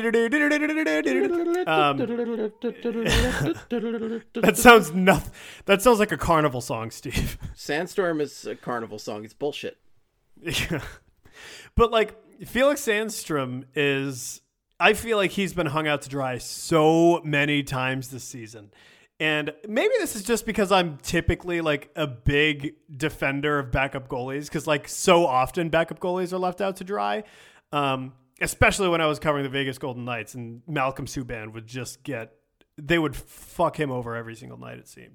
sounds nothing. That sounds like a carnival song, Steve. Sandstorm is a carnival song. It's bullshit. Yeah. But like Felix Sandstrom is, I feel like he's been hung out to dry so many times this season. And maybe this is just because I'm typically like a big defender of backup goalies, because like so often backup goalies are left out to dry. Especially when I was covering the Vegas Golden Knights, and Malcolm Subban would just they would fuck him over every single night, it seemed.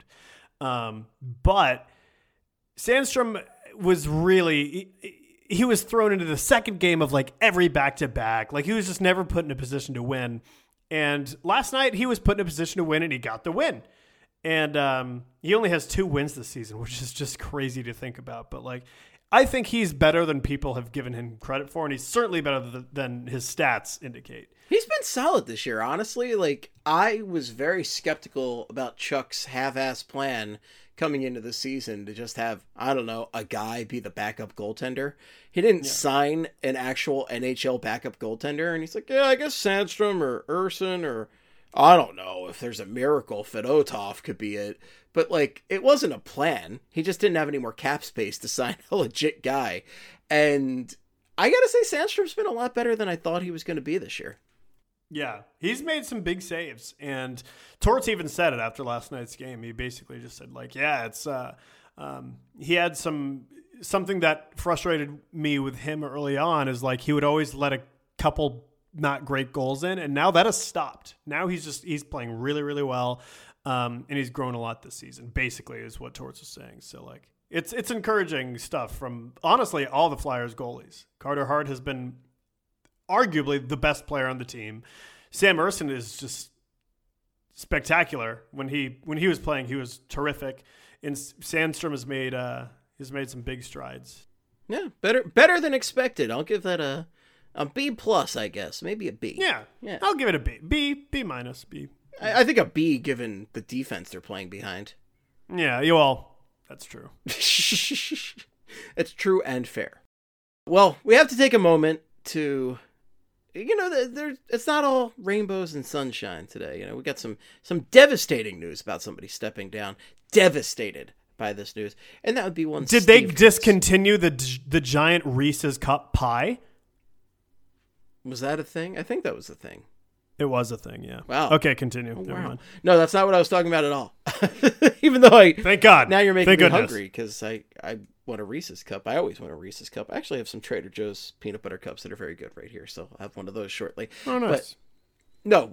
But Sandstrom was really, he was thrown into the second game of like every back-to-back. Like he was just never put in a position to win. And last night he was put in a position to win, and he got the win. And he only has 2 wins this season, which is just crazy to think about. But like, I think he's better than people have given him credit for, and he's certainly better than his stats indicate. He's been solid this year, honestly. Like, I was very skeptical about Chuck's half-ass plan coming into the season to just have, I don't know, a guy be the backup goaltender. He didn't sign an actual NHL backup goaltender, and he's like, yeah, I guess Sandstrom or Urson, or I don't know if there's a miracle Fedotov could be it. But, like, it wasn't a plan. He just didn't have any more cap space to sign a legit guy. And I gotta say, Sandstrom's been a lot better than I thought he was going to be this year. Yeah, he's made some big saves. And Torts even said it after last night's game. He basically just said, like, yeah, it's he had something that frustrated me with him early on is, like, he would always let a couple not great goals in, and now that has stopped. Now he's playing really, really well. And he's grown a lot this season, basically, is what Torts was saying. So, like, it's encouraging stuff from, honestly, all the Flyers goalies. Carter Hart has been arguably the best player on the team. Sam Ersson is just spectacular. When he was playing, he was terrific. And Sandstrom has made some big strides. Yeah, better than expected. I'll give that a B plus, I guess. Maybe a B. Yeah. I'll give it a B. B minus, B. I think a B, given the defense they're playing behind. Yeah, that's true. It's true and fair. Well, we have to take a moment to, it's not all rainbows and sunshine today. We got some devastating news about somebody stepping down. Devastated by this news. And that would be one. Did they discontinue the giant Reese's Cup pie? Was that a thing? I think that was a thing. It was a thing, yeah. Wow. Okay, continue. Oh, Never mind. No, that's not what I was talking about at all. Even though thank God. Now you're making me hungry because I want a Reese's Cup. I always want a Reese's Cup. I actually have some Trader Joe's peanut butter cups that are very good right here, so I'll have one of those shortly. Oh, nice. But no,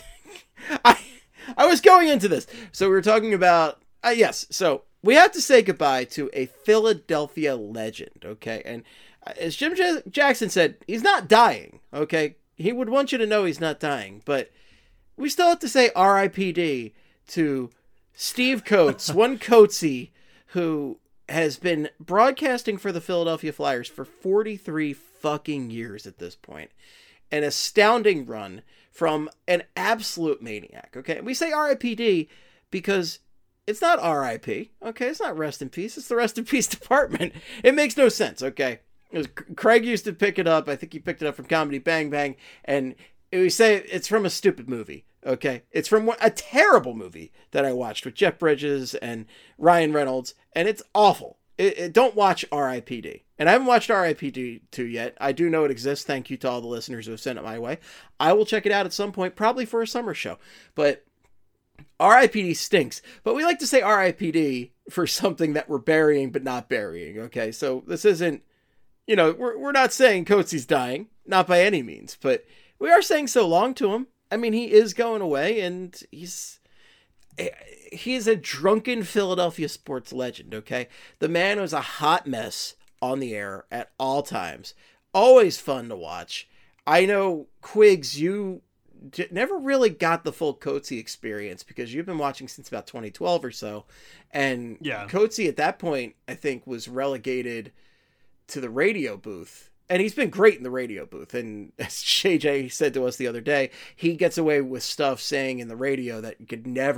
I was going into this. So we were talking about, yes, so we have to say goodbye to a Philadelphia legend, okay? And as Jim Jackson said, he's not dying, okay? He would want you to know he's not dying, but we still have to say R.I.P.D. to Steve Coates, one Coatesy, who has been broadcasting for the Philadelphia Flyers for 43 fucking years at this point. An astounding run from an absolute maniac, okay? We say R.I.P.D. because it's not R.I.P., okay? It's not rest in peace. It's the rest in peace department. It makes no sense, okay? Craig used to pick it up. I think he picked it up from Comedy Bang Bang, and we say it's from a stupid movie. Okay, it's from a terrible movie that I watched with Jeff Bridges and Ryan Reynolds, and it's awful. Don't watch R.I.P.D. And I haven't watched R.I.P.D. 2 yet. I do know it exists. Thank you to all the listeners who have sent it my way. I will check it out at some point, probably for a summer show. But R.I.P.D. stinks. But we like to say R.I.P.D. for something that we're burying but not burying. Okay, so this isn't. We're not saying Coates's dying, not by any means, but we are saying so long to him. I mean, he is going away, and he's a drunken Philadelphia sports legend, okay? The man was a hot mess on the air at all times. Always fun to watch. I know, Quiggs, you never really got the full Coatesy experience because you've been watching since about 2012 or so, and Coatesy at that point, I think, was relegated to the radio booth, and he's been great in the radio booth. And as JJ said to us the other day, he gets away with stuff saying in the radio that you could never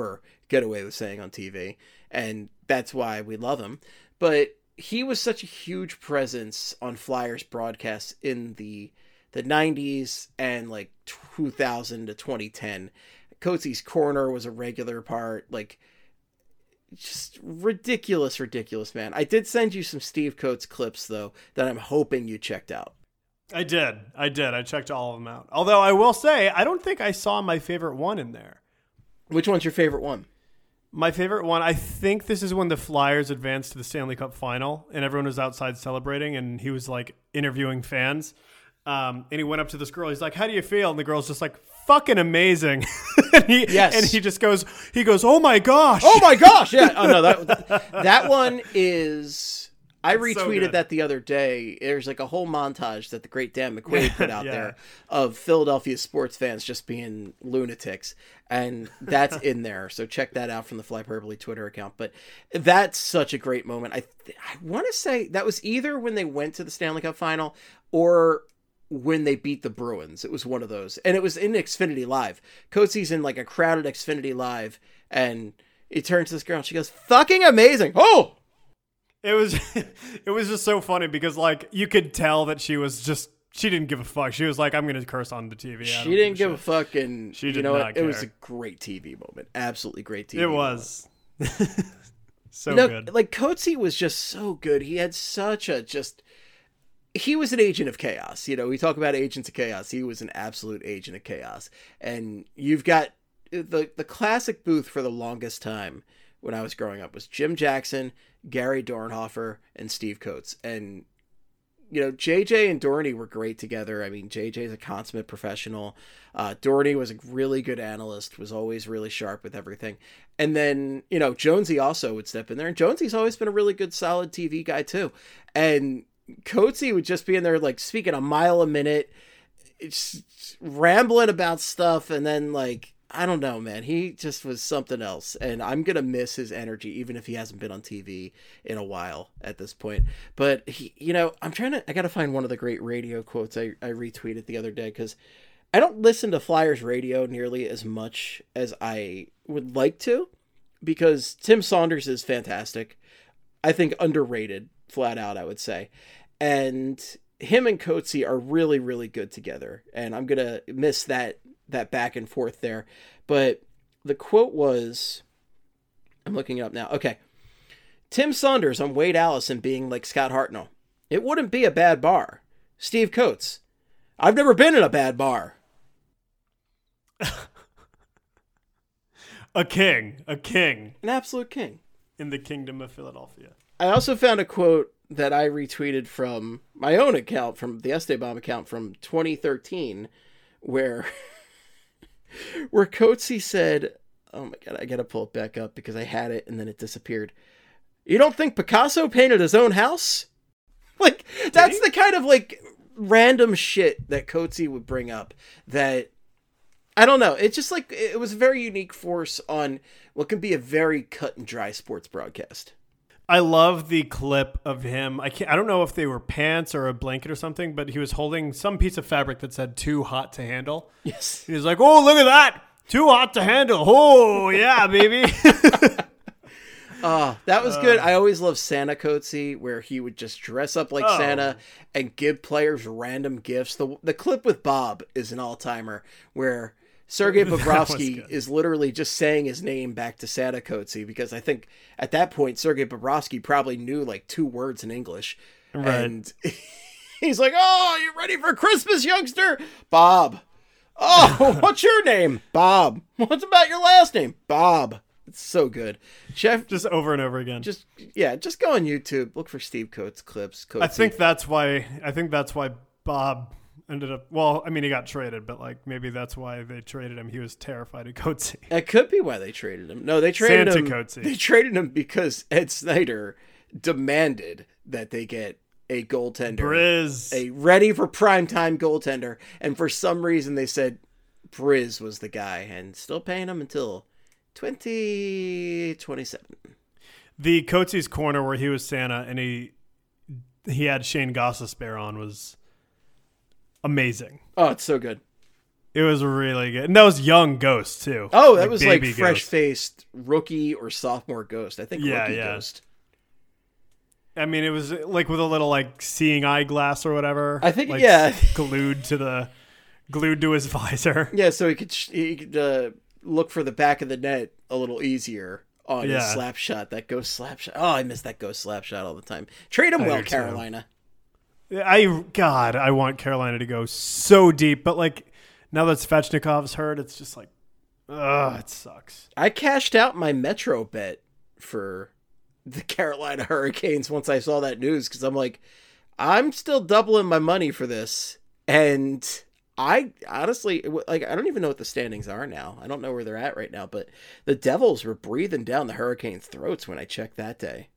get away with saying on TV, and that's why we love him. But he was such a huge presence on Flyers broadcasts in the 90s and like 2000 to 2010. Coates's Corner was a regular part, like just ridiculous, man. I did send you some Steve Coates clips though that I'm hoping you checked out. I did. I checked all of them out. Although I will say, I don't think I saw my favorite one in there. Which one's your favorite one? My favorite one, I think this is when the Flyers advanced to the Stanley Cup final and everyone was outside celebrating and he was like interviewing fans. And he went up to this girl. He's like, "How do you feel?" And the girl's just like, "Fucking amazing." And he just goes, "Oh my gosh." Oh my gosh. Yeah. Oh no, that one is, I retweeted so that the other day. There's like a whole montage that the great Dan McQuaid put out Yeah. there of Philadelphia sports fans just being lunatics. And that's in there. So check that out from the Flyperbole Twitter account. But that's such a great moment. I want to say that was either when they went to the Stanley Cup final or when they beat the Bruins. It was one of those. And it was in Xfinity Live. Coates's in like a crowded Xfinity Live. And he turns to this girl and she goes, "Fucking amazing." Oh! It was just so funny because like you could tell that she didn't give a fuck. She was like, "I'm going to curse on the TV." She didn't give a fuck, and She you did know not what? It was care. a great TV moment. Absolutely great TV It moment. was. So No, good. like Coates was just so good. He had such a he was an agent of chaos. You know, we talk about agents of chaos. He was an absolute agent of chaos. And you've got the classic booth for the longest time when I was growing up was Jim Jackson, Gary Dornhofer, and Steve Coates. And, you know, JJ and Dorney were great together. I mean, JJ's a consummate professional. Dorney was a really good analyst, was always really sharp with everything. And then, you know, Jonesy also would step in there. And Jonesy's always been a really good, solid TV guy, too. And Coatesy would just be in there, like, speaking a mile a minute, rambling about stuff. And then, like, I don't know, man. He just was something else. And I'm going to miss his energy, even if he hasn't been on TV in a while at this point. But, he, you know, I got to find one of the great radio quotes I retweeted the other day, because I don't listen to Flyers radio nearly as much as I would like to, because Tim Saunders is fantastic. I think underrated, flat out, I would say. And him and Coatesy are really, really good together. And I'm going to miss that back and forth there. But the quote was, I'm looking it up now. Okay. Tim Saunders on Wade Allison being like Scott Hartnell. "It wouldn't be a bad bar." Steve Coates: "I've never been in a bad bar." A king An absolute king. in the kingdom of Philadelphia. I also found a quote that I retweeted from my own account, from the Esteban account from 2013, where Coatesy said, oh my God, I got to pull it back up because I had it and then it disappeared. "You don't think Picasso painted his own house?" Like, that's the kind of like random shit that Coatesy would bring up that, I don't know. It's just like, it was a very unique force on what can be a very cut and dry sports broadcast. I love the clip of him. I don't know if they were pants or a blanket or something, but he was holding some piece of fabric that said "too hot to handle." Yes. He was like, "Oh, look at that. Too hot to handle. Oh, yeah, baby." That was good. I always loved Santa Coatesy, where he would just dress up like Santa and give players random gifts. The clip with Bob is an all-timer, where Sergei Bobrovsky is literally just saying his name back to Santa Coatesy, because I think at that point Sergei Bobrovsky probably knew like 2 words in English. Right. And he's like, "Oh, you ready for Christmas, youngster?" "Bob." "Oh, what's your name?" "Bob." "What's about your last name?" "Bob." It's so good. Chef, Just over and over again. just go on YouTube, look for Steve Coates clips. Coatesy. I think that's why Bob ended up, well, I mean, he got traded, but like maybe that's why they traded him. He was terrified of Coatesy. That could be why they traded him. No, they traded Santa him. Coatesy. They traded him because Ed Snyder demanded that they get a goaltender, Briz. a ready for primetime goaltender, and for some reason they said Briz was the guy, and still paying him until 2027. The Coates's corner where he was Santa and he had Shane Gostisbehere on was amazing. Oh, it's so good. It was really good. And that was young Ghost, too. Oh, that was like baby Ghost. fresh-faced rookie or sophomore Ghost. I think rookie Ghost. I mean, it was like with a little like seeing eyeglass or whatever. I think, like, yeah. glued to his visor. Yeah, so he could look for the back of the net a little easier on his slap shot, that Ghost slap shot. Oh, I miss that Ghost slap shot all the time. Trade him well, Carolina. I want Carolina to go so deep, but like now that Svechnikov's hurt, it's just like, ugh, it sucks. I cashed out my Metro bet for the Carolina Hurricanes once I saw that news because I'm like, I'm still doubling my money for this. And I honestly, like, I don't even know what the standings are now. I don't know where they're at right now, but the Devils were breathing down the Hurricanes' throats when I checked that day.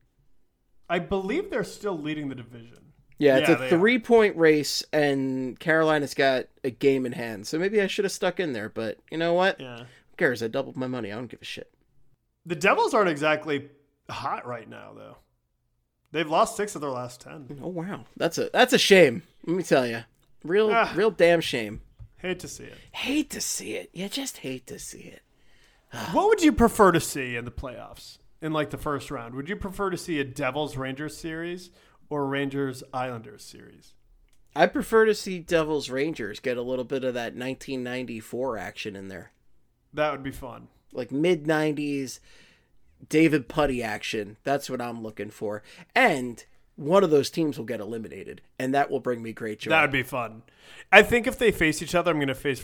I believe they're still leading the division. Yeah, it's a 3-point race, and Carolina's got a game in hand. So maybe I should have stuck in there, but you know what? Yeah. Who cares? I doubled my money. I don't give a shit. The Devils aren't exactly hot right now, though. They've lost 6 of their last 10. Oh wow, that's a shame. Let me tell you, real damn shame. Hate to see it. Hate to see it. You just hate to see it. What would you prefer to see in the playoffs in like the first round? Would you prefer to see a Devils Rangers series or Rangers Islanders series? I prefer to see Devils Rangers get a little bit of that 1994 action in there, That would be fun. like mid 90s. David Putty action. That's what I'm looking for. And one of those teams will get eliminated, and that will bring me great joy. That would be fun. I think if they face each other, I'm going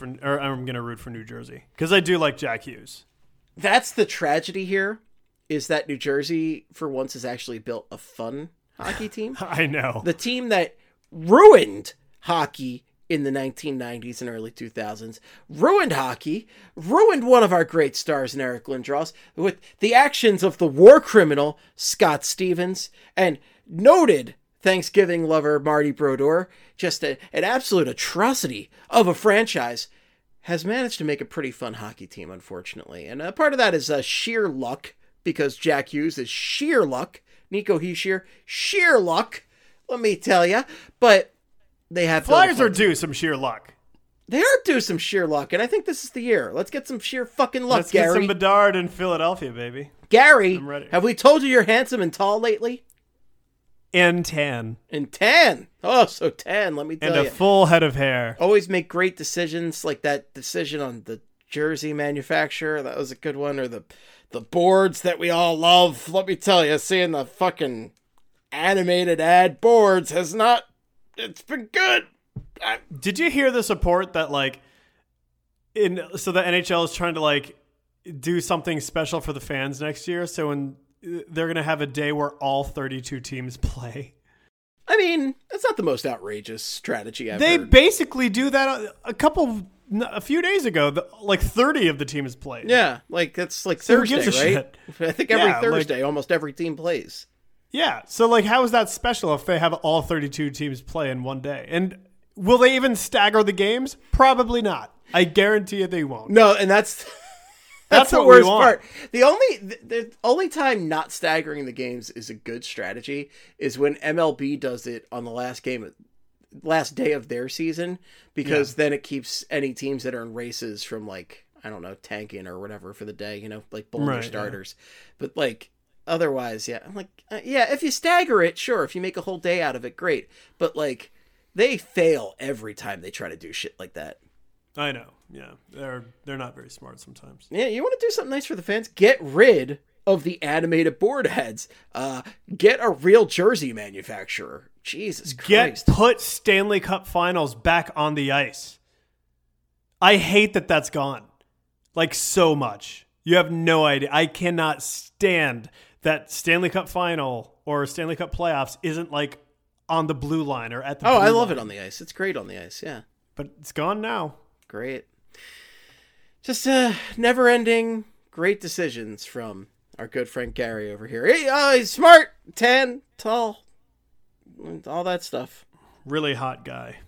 to root for New Jersey because I do like Jack Hughes. That's the tragedy here, is that New Jersey, for once, has actually built a fun hockey team. I know. The team that ruined hockey in the 1990s and early 2000s, ruined hockey, ruined one of our great stars in Eric Lindros with the actions of the war criminal Scott Stevens and noted Thanksgiving lover Marty Brodeur, just an absolute atrocity of a franchise, has managed to make a pretty fun hockey team, unfortunately. And part of that is sheer luck, because Jack Hughes is sheer luck. Nico Hischier, sheer luck, let me tell you. But they have Flyers are due some sheer luck. They are due some sheer luck, and I think this is the year. Let's get some sheer fucking luck, Let's Gary. get some Bedard in Philadelphia, baby. Gary, I'm ready. have we told you you're handsome and tall lately? And tan. And tan. Oh, so tan, let me tell And you. a full head of hair. Always make great decisions, like that decision on the jersey manufacturer. That was a good one. Or the boards that we all love. Let me tell you, seeing the fucking animated ad boards has not... It's been good. Did you hear the support that like so the NHL is trying to like do something special for the fans next year? So when they're going to have a day where all 32 teams play. I mean, that's not the most outrageous strategy I've They heard. basically do that a few days ago. Like 30 of the teams played. Yeah, like that's like So who Thursday, gives a right? shit? I think every Yeah, Thursday, almost every team plays. Yeah. So like, how is that special if they have all 32 teams play in one day? And will they even stagger the games? Probably not. I guarantee you they won't. No, and that's That's the what we worst want. part. The only time not staggering the games is a good strategy is when MLB does it on the last day of their season, because then it keeps any teams that are in races from, like, I don't know, tanking or whatever for the day, you know, like pulling their Right, starters. But like otherwise, yeah, I'm like, yeah, if you stagger it, sure, if you make a whole day out of it, great. But like, they fail every time they try to do shit like that. I know. Yeah. They're not very smart sometimes. Yeah, you want to do something nice for the fans? Get rid of the animated board heads. Get a real jersey manufacturer. Jesus Christ. Put Stanley Cup Finals back on the ice. I hate that that's gone. Like, so much. You have no idea. I cannot stand that Stanley Cup Final or Stanley Cup Playoffs isn't like on the blue line or at the blue I love line. it on the ice. It's great on the ice, yeah. But it's gone now. Great. Just never-ending great decisions from our good friend Gary over here. He's smart, tan, tall, all that stuff. Really hot guy.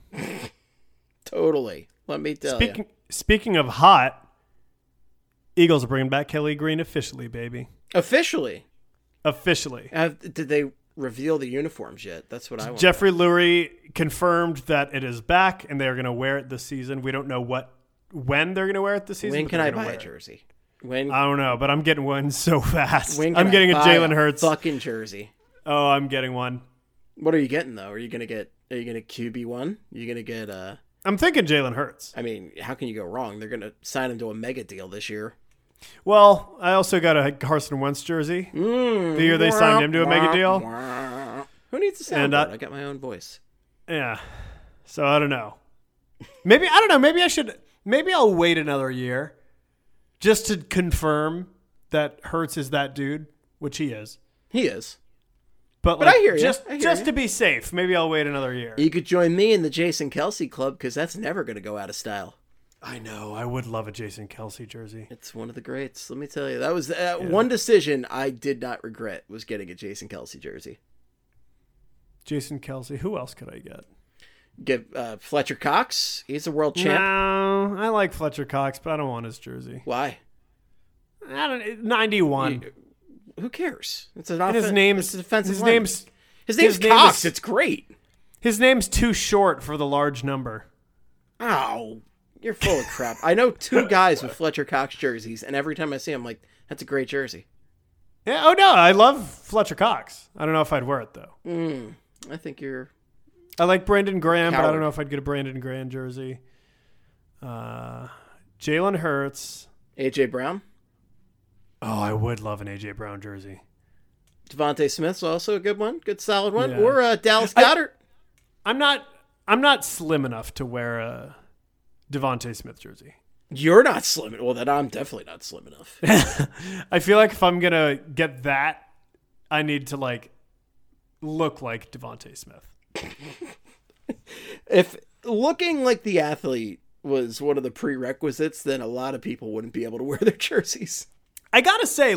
Totally. Let me tell you. Speaking of hot, Eagles are bringing back Kelly Green officially, baby. Officially. Officially. Did they reveal the uniforms yet? That's what I want. Jeffrey Lurie confirmed that it is back and they are going to wear it this season. We don't know what when they're going to wear it this season. When but can they're I gonna buy wear a it. jersey? When I don't know, but I'm getting one so fast. when can I'm I getting a buy Jalen Hurts. fucking jersey? Oh, I'm getting one. What are you getting though? Are you gonna QB1? Are you gonna get I'm thinking Jalen Hurts. I mean, how can you go wrong? They're gonna sign him to a mega deal this year. Well, I also got a Carson Wentz jersey. The year they signed him to a mega deal. Who needs a And, soundboard? I got my own voice. Yeah. So I don't know. Maybe I don't know. Maybe I'll wait another year just to confirm that Hurts is that dude, which he is. He is. But I hear you. Just I hear you. to be safe, maybe I'll wait another year. You could join me in the Jason Kelsey club because that's never going to go out of style. I know. I would love a Jason Kelsey jersey. It's one of the greats. Let me tell you, that was one decision I did not regret was getting a Jason Kelsey jersey. Jason Kelsey. Who else could I get? Get Fletcher Cox. He's a world champ. No, I like Fletcher Cox, but I don't want his jersey. Why? I don't. 91. Who cares? It's an And his name's defensive his lineman. name's His name's his name Cox. is- It's great. his name's too short for the large number. Ow. You're full of crap. I know two guys with Fletcher Cox jerseys, and every time I see them, I'm like, that's a great jersey. Yeah. Oh no, I love Fletcher Cox. I don't know if I'd wear it though. I think you're... I like Brandon Graham, but I Coward. don't know if I'd get a Brandon Graham jersey. Jalen Hurts. A.J. Brown. Oh, I would love an AJ Brown jersey. Devontae Smith's also a good one. Good solid one. Yeah. Or Dallas Goddard. I'm not slim enough to wear a Devontae Smith jersey. You're not slim. Well, then I'm definitely not slim enough. I feel like if I'm gonna get that, I need to look like Devontae Smith. If looking like the athlete was one of the prerequisites, then a lot of people wouldn't be able to wear their jerseys. I gotta say,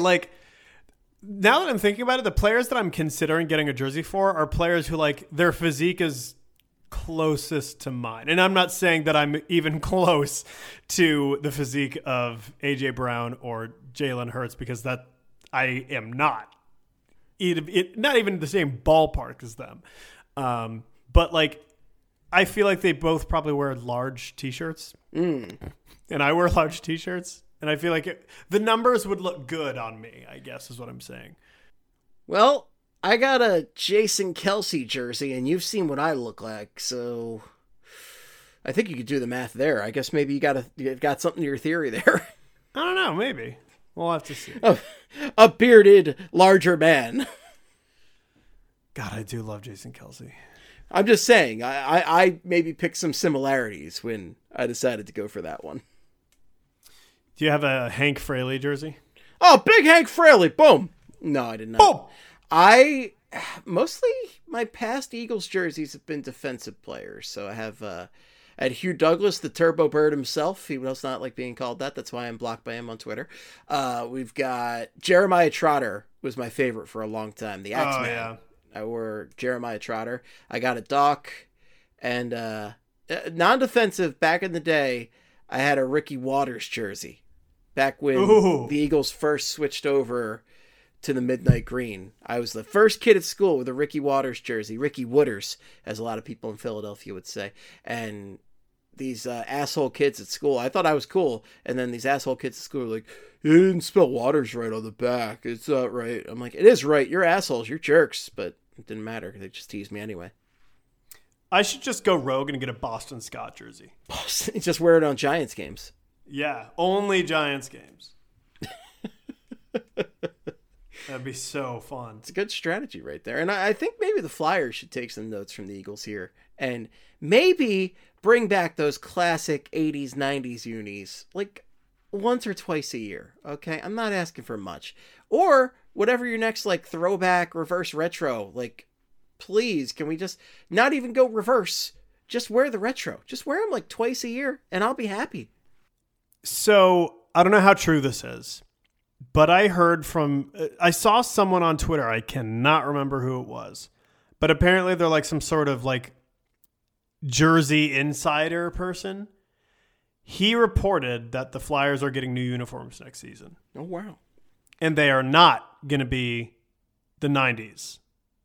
now that I'm thinking about it, the players that I'm considering getting a jersey for are players who their physique is closest to mine. And I'm not saying that I'm even close to the physique of AJ Brown or Jalen Hurts, because that I am not. Not even the same ballpark as them. But I feel like they both probably wear large t-shirts. And I wear large t-shirts. And I feel like the numbers would look good on me, I guess is what I'm saying. Well, I got a Jason Kelsey jersey, and you've seen what I look like, so I think you could do the math there. I guess maybe you got something to your theory there. I don't know, maybe. We'll have to see. A bearded, larger man. God, I do love Jason Kelsey. I'm just saying, I maybe picked some similarities when I decided to go for that one. Do you have a Hank Fraley jersey? Oh, big Hank Fraley. Boom. No, I did not. Boom! Mostly my past Eagles jerseys have been defensive players. So I have at Hugh Douglas, the Turbo Bird himself. He does not like being called that. That's why I'm blocked by him on Twitter. We've got Jeremiah Trotter was my favorite for a long time. The Axeman. yeah. I wore Jeremiah Trotter. I got a Doc, and non-defensive back in the day. I had a Ricky Waters jersey back when the Eagles first switched over to the midnight green. I was the first kid at school with a Ricky Waters jersey, Ricky Wooders, as a lot of people in Philadelphia would say. And these asshole kids at school, I thought I was cool. And then these asshole kids at school were like, you didn't spell Waters right on the back. It's not right. I'm like, it is right. You're assholes. You're jerks. But it didn't matter. They just teased me anyway. I should just go rogue and get a Boston Scott jersey. Just wear it on Giants games. Yeah, only Giants games. That'd be so fun. It's a good strategy right there. And I think maybe the Flyers should take some notes from the Eagles here and maybe bring back those classic 80s, 90s unis once or twice a year. Okay, I'm not asking for much. Or whatever your next throwback, reverse retro, please, can we just not even go reverse? Just wear the retro. Just wear them twice a year and I'll be happy. So I don't know how true this is, but I saw someone on Twitter. I cannot remember who it was, but apparently they're some sort of jersey insider person. He reported that the Flyers are getting new uniforms next season. Oh, wow. And they are not going to be the 90s.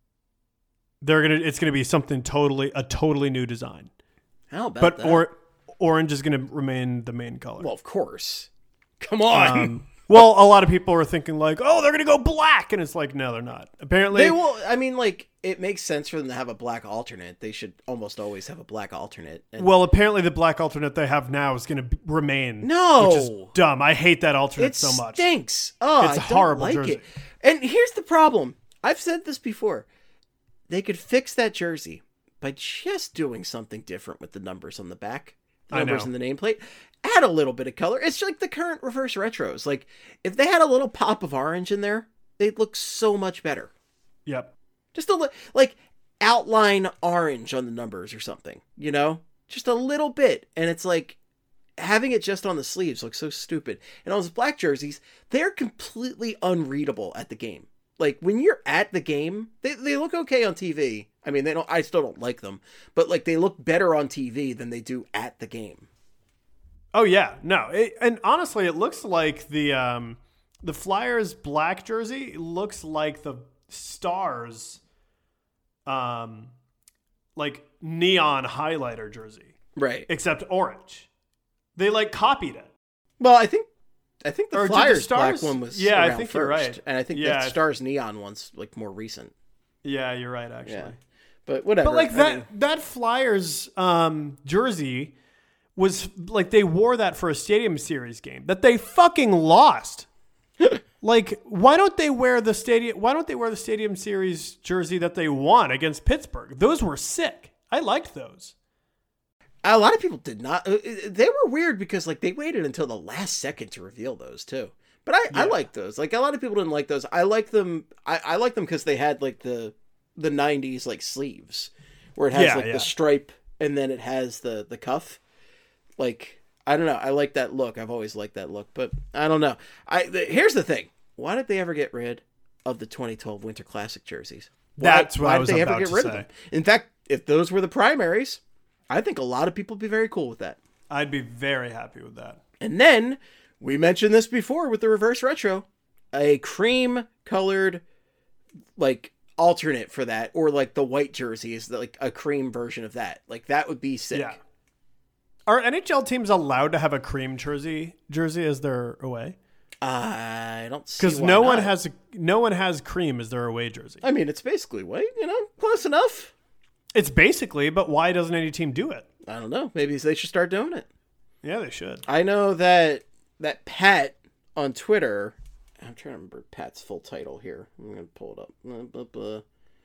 It's going to be something totally new design. How about that? orange is going to remain the main color. Well, of course. Come on. Well, a lot of people are thinking like, oh, they're going to go black. And it's like, no, they're not. Apparently. They will. I mean, like, it makes sense for them to have a black alternate. They should almost always have a black alternate. And well, apparently the black alternate they have now is going to remain. No. Which is dumb. I hate that alternate so much. It stinks. Oh, It's I a don't horrible like jersey. it. And here's the problem. I've said this before. They could fix that jersey by just doing something different with the numbers on the back. The numbers in the nameplate. Add a little bit of color. It's like the current reverse retros. Like, if they had a little pop of orange in there, they'd look so much better. Yep. Just like outline orange on the numbers or something, you know? Just a little bit. And it's like having it just on the sleeves looks so stupid. And on those black jerseys, they're completely unreadable at the game. Like, when you're at the game, they look okay on TV. I mean, I still don't like them, but like they look better on TV than they do at the game. Oh yeah, no, and honestly, it looks like the Flyers black jersey looks like the Stars, like neon highlighter jersey, Right? except orange. They like copied it. Well, I think the Or did the Flyers black Stars? one was Yeah, I around think first, you're right. and I think Yeah, the Stars neon one's like more recent. Yeah, you're right, actually. Yeah, but whatever. But like I that mean, that Flyers jersey was like they wore that for a Stadium Series game that they fucking lost. Like, why don't they wear the Stadium Series jersey that they won against Pittsburgh? Those were sick. I liked those. a lot of people did not. They were weird because like they waited until the last second to reveal those too. But I like those. Like a lot of people didn't like those. I like them. I like them because they had like the 90s like sleeves where it has the stripe and then it has the cuff. Like, I don't know. I like that look. I've always liked that look, but I don't know. Here's the thing. Why did they ever get rid of the 2012 Winter Classic jerseys? That's what I was about to say. Of them? In fact, if those were the primaries, I think a lot of people would be very cool with that. I'd be very happy with that. And then, we mentioned this before with the reverse retro, a cream colored, like, alternate for that, or like the white jersey is like a cream version of that. Like, that would be sick. Yeah. Are NHL teams allowed to have a cream jersey as their away? I don't see because why no not. one has cream as their away jersey. I mean, it's basically white, close enough. It's basically, but why doesn't any team do it? I don't know. Maybe they should start doing it. Yeah, they should. I know that Pat on Twitter, I'm trying to remember Pat's full title here. I'm going to pull it up.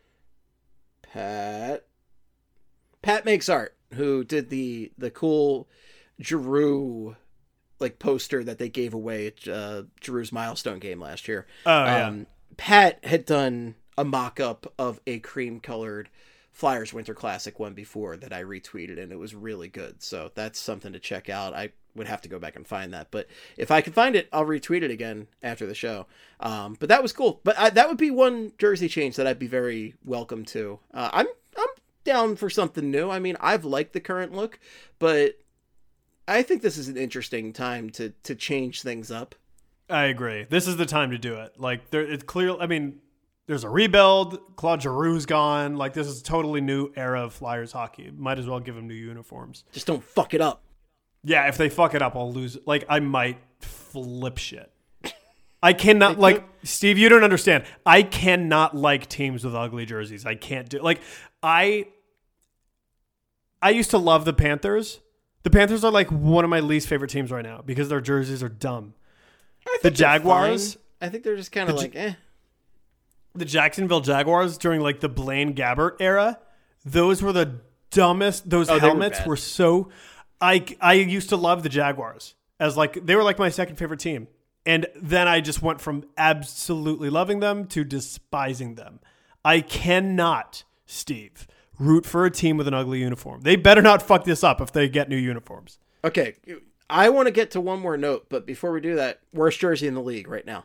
Pat Makes Art, who did the cool Giroux like poster that they gave away at Giroux's milestone game last year. Oh, yeah. Pat had done a mock-up of a cream-colored Flyers Winter Classic one before that I retweeted, and it was really good. So that's something to check out. I would have to go back and find that, but if I can find it, I'll retweet it again after the show. But that was cool. But that would be one jersey change that I'd be very welcome to. I'm down for something new. I mean, I've liked the current look, but I think this is an interesting time to change things up. I agree. This is the time to do it. Like, it's clear. I mean, there's a rebuild. Claude Giroux's gone. Like, this is a totally new era of Flyers hockey. Might as well give them new uniforms. Just don't fuck it up. Yeah, if they fuck it up, I'll lose. Like, I might flip shit. I cannot, like, Steve, you don't understand. I cannot like teams with ugly jerseys. I can't do, like, I used to love the Panthers. The Panthers are like one of my least favorite teams right now because their jerseys are dumb. The Jaguars, I think they're just kind of like, eh. The Jacksonville Jaguars during like the Blaine Gabbert era, those were the dumbest. Those helmets were so. I used to love the Jaguars as like they were like my second favorite team, and then I just went from absolutely loving them to despising them. I cannot, Steve, root for a team with an ugly uniform. They better not fuck this up if they get new uniforms. Okay, I want to get to one more note, but before we do that, worst jersey in the league right now.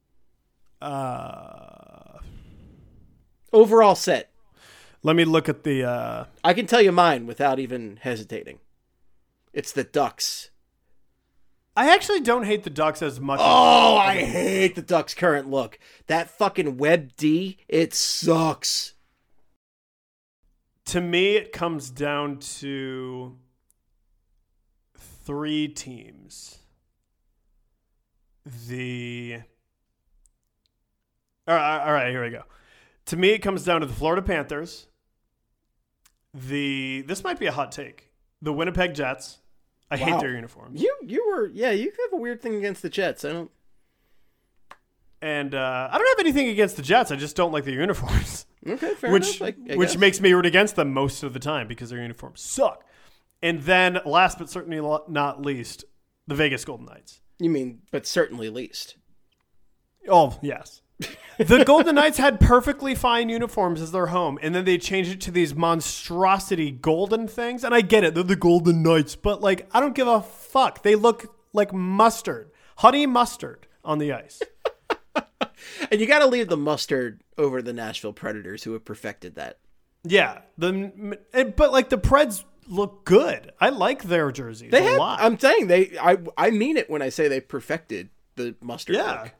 Overall set. Let me look at the... I can tell you mine without even hesitating. It's the Ducks. I actually don't hate the Ducks as much. Oh, I hate the Ducks' current look. That fucking Web D, it sucks. To me, it comes down to three teams. All right, here we go. To me, it comes down to the Florida Panthers. This might be a hot take. The Winnipeg Jets. I hate their uniforms. You have a weird thing against the Jets. I don't have anything against the Jets. I just don't like their uniforms. Okay, fair enough. I Which guess. makes me root against them most of the time because their uniforms suck. And then, last but certainly not least, the Vegas Golden Knights. You mean, but certainly least. Oh, yes. The Golden Knights had perfectly fine uniforms as their home, and then they changed it to these monstrosity golden things. And I get it, they're the Golden Knights, but like, I don't give a fuck. They look like mustard, honey mustard on the ice. And you got to leave the mustard over the Nashville Predators, who have perfected that. Yeah, but like the Preds look good. I like their jerseys a lot. I'm saying I mean it when I say they perfected the mustard look.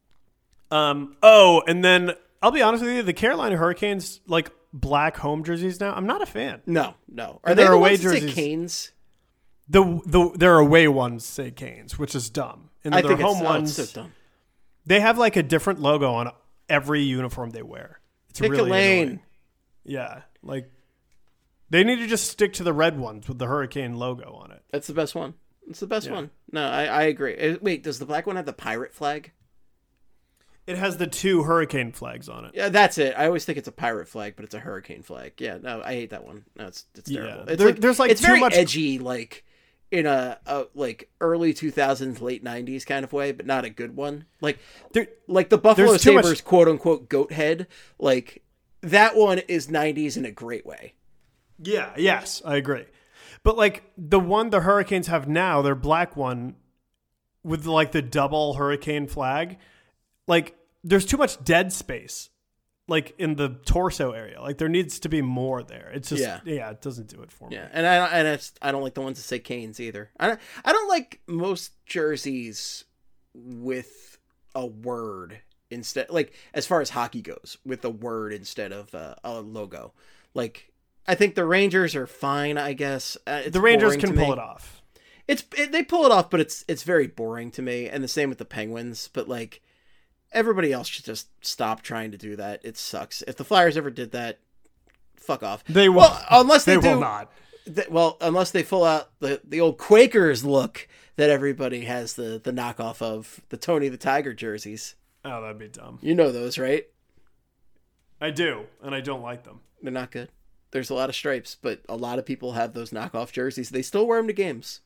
And then I'll be honest with you, the Carolina Hurricanes like black home jerseys now. I'm not a fan. No. Are And they their the away ones that say jerseys- Canes? Their away ones say Canes, which is dumb. And I their think home it's ones, so dumb. they have like a different logo on every uniform they wear. It's Pick really a lane. annoying. Yeah, like they need to just stick to the red ones with the Hurricane logo on it. That's the best one. It's the best one. No, I agree. Wait, does the black one have the pirate flag? It has the two Hurricane flags on it. Yeah, that's it. I always think it's a pirate flag, but it's a hurricane flag. Yeah, no, I hate that one. No, it's terrible. Yeah. It's There's like it's too very much edgy, like in a like early 2000s, late 90s kind of way, but not a good one. Like like the Buffalo there's too much- Sabres quote unquote goat head. Like that one is 90s in a great way. Yeah, yes, I agree. But like the one the Hurricanes have now, their black one with like the double hurricane flag, like there's too much dead space like in the torso area. Like there needs to be more there. It's just yeah it doesn't do it for me. Yeah, and I don't like the ones that say Canes either. I don't like most jerseys with a word instead, like as far as hockey goes, with a word instead of a logo. Like I think the Rangers are fine, I guess. The Rangers can pull it off. They pull it off, but it's very boring to me. And the same with the Penguins. But like everybody else should just stop trying to do that. It sucks. If the Flyers ever did that, fuck off. They will. Well, unless they will do, not. Unless they pull out the old Quakers look that everybody has the knockoff of, the Tony the Tiger jerseys. Oh, that'd be dumb. You know those, right? I do, and I don't like them. They're not good. There's a lot of stripes, but a lot of people have those knockoff jerseys. They still wear them to games.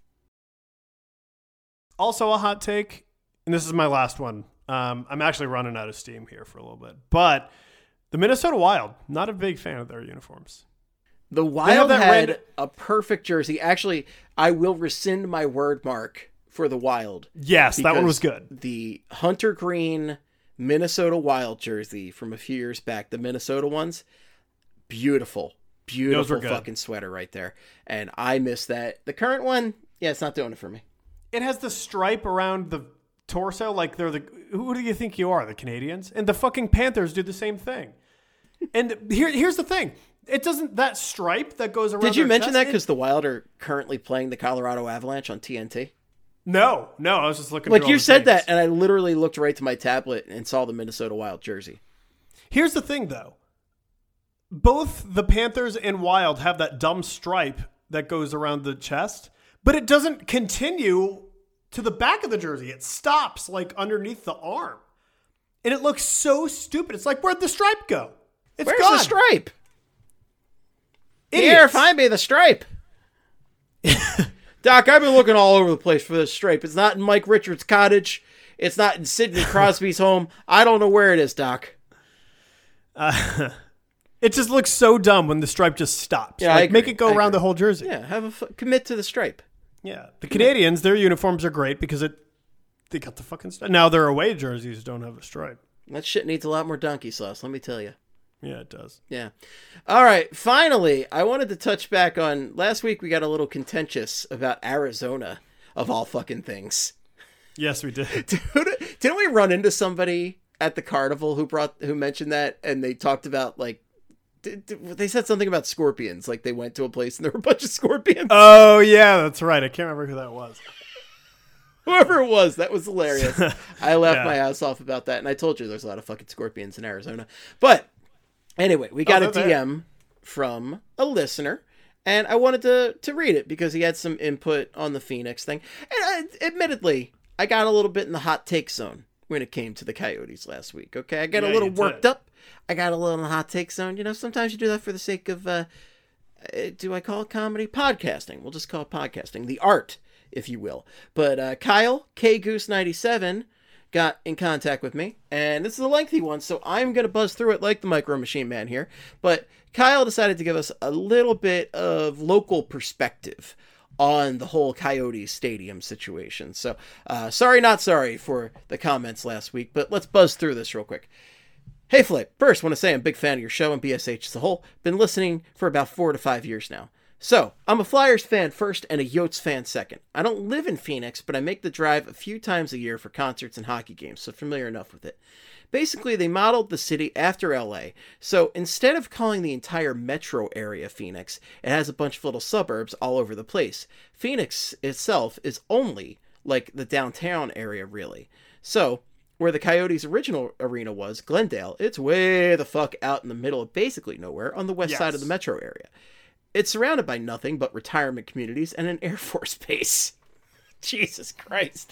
Also a hot take, and this is my last one. I'm actually running out of steam here for a little bit. But the Minnesota Wild, not a big fan of their uniforms. The Wild that had a perfect jersey. Actually, I will rescind my word mark for the Wild. Yes, that one was because good. The Hunter Green Minnesota Wild jersey from a few years back, the Minnesota ones, beautiful good. fucking sweater right there. And I miss that. The current one, yeah, it's not doing it for me. It has the stripe around the torso, like who do you think you are, the Canadians? And the fucking Panthers do the same thing. And here's the thing. It doesn't, that stripe that goes around. Did you their mention chest, that because the Wild are currently playing the Colorado Avalanche on TNT? No, I was just looking. Like through all you the said things. that, and I literally looked right to my tablet and saw the Minnesota Wild jersey. Here's the thing, though. Both the Panthers and Wild have that dumb stripe that goes around the chest, but it doesn't continue to the back of the jersey. It stops like underneath the arm. And it looks so stupid. It's like, where'd the stripe go? It's Where's gone. the stripe? Idiots. Here, find me the stripe. Doc, I've been looking all over the place for this stripe. It's not in Mike Richards' cottage. It's not in Sidney Crosby's home. I don't know where it is, Doc. It just looks so dumb when the stripe just stops. Yeah, I like, make agree. it go I around agree. the whole jersey. Yeah, commit to the stripe. Yeah. The Canadians, their uniforms are great because they got the fucking stripe. Now their away jerseys don't have a stripe. That shit needs a lot more donkey sauce, let me tell you. Yeah, it does. Yeah. All right. Finally, I wanted to touch back on last week. We got a little contentious about Arizona, of all fucking things. Yes, we did. Didn't we run into somebody at the carnival who mentioned that, and they talked about like They said something about scorpions, like they went to a place and there were a bunch of scorpions. Oh yeah, that's right. I can't remember who that was. Whoever it was, that was hilarious. I laughed Yeah. my ass off about that, and I told you there's a lot of fucking scorpions in Arizona. But anyway, we got a they're there. DM from a listener, and I wanted to read it because he had some input on the Phoenix thing. And admittedly, I got a little bit in the hot take zone when it came to the Coyotes last week. Okay, I got a Yeah, little you worked did. up. I got a little in the hot take zone. You know, sometimes you do that for the sake of, do I call it comedy? Podcasting. We'll just call it podcasting. The art, if you will. But Kyle, KGoose97, got in contact with me. And this is a lengthy one, so I'm going to buzz through it like the Micro Machine Man here. But Kyle decided to give us a little bit of local perspective on the whole Coyotes Stadium situation. So, sorry, not sorry for the comments last week, but let's buzz through this real quick. Hey Flip, first want to say I'm a big fan of your show and BSH as a whole. Been listening for about 4 to 5 years now. So, I'm a Flyers fan first and a Yotes fan second. I don't live in Phoenix, but I make the drive a few times a year for concerts and hockey games, so familiar enough with it. Basically, they modeled the city after LA, so instead of calling the entire metro area Phoenix, it has a bunch of little suburbs all over the place. Phoenix itself is only like the downtown area, really. So, where the Coyotes' original arena was, Glendale, it's way the fuck out in the middle of basically nowhere on the west side of the metro area. It's surrounded by nothing but retirement communities and an Air Force base. Jesus Christ.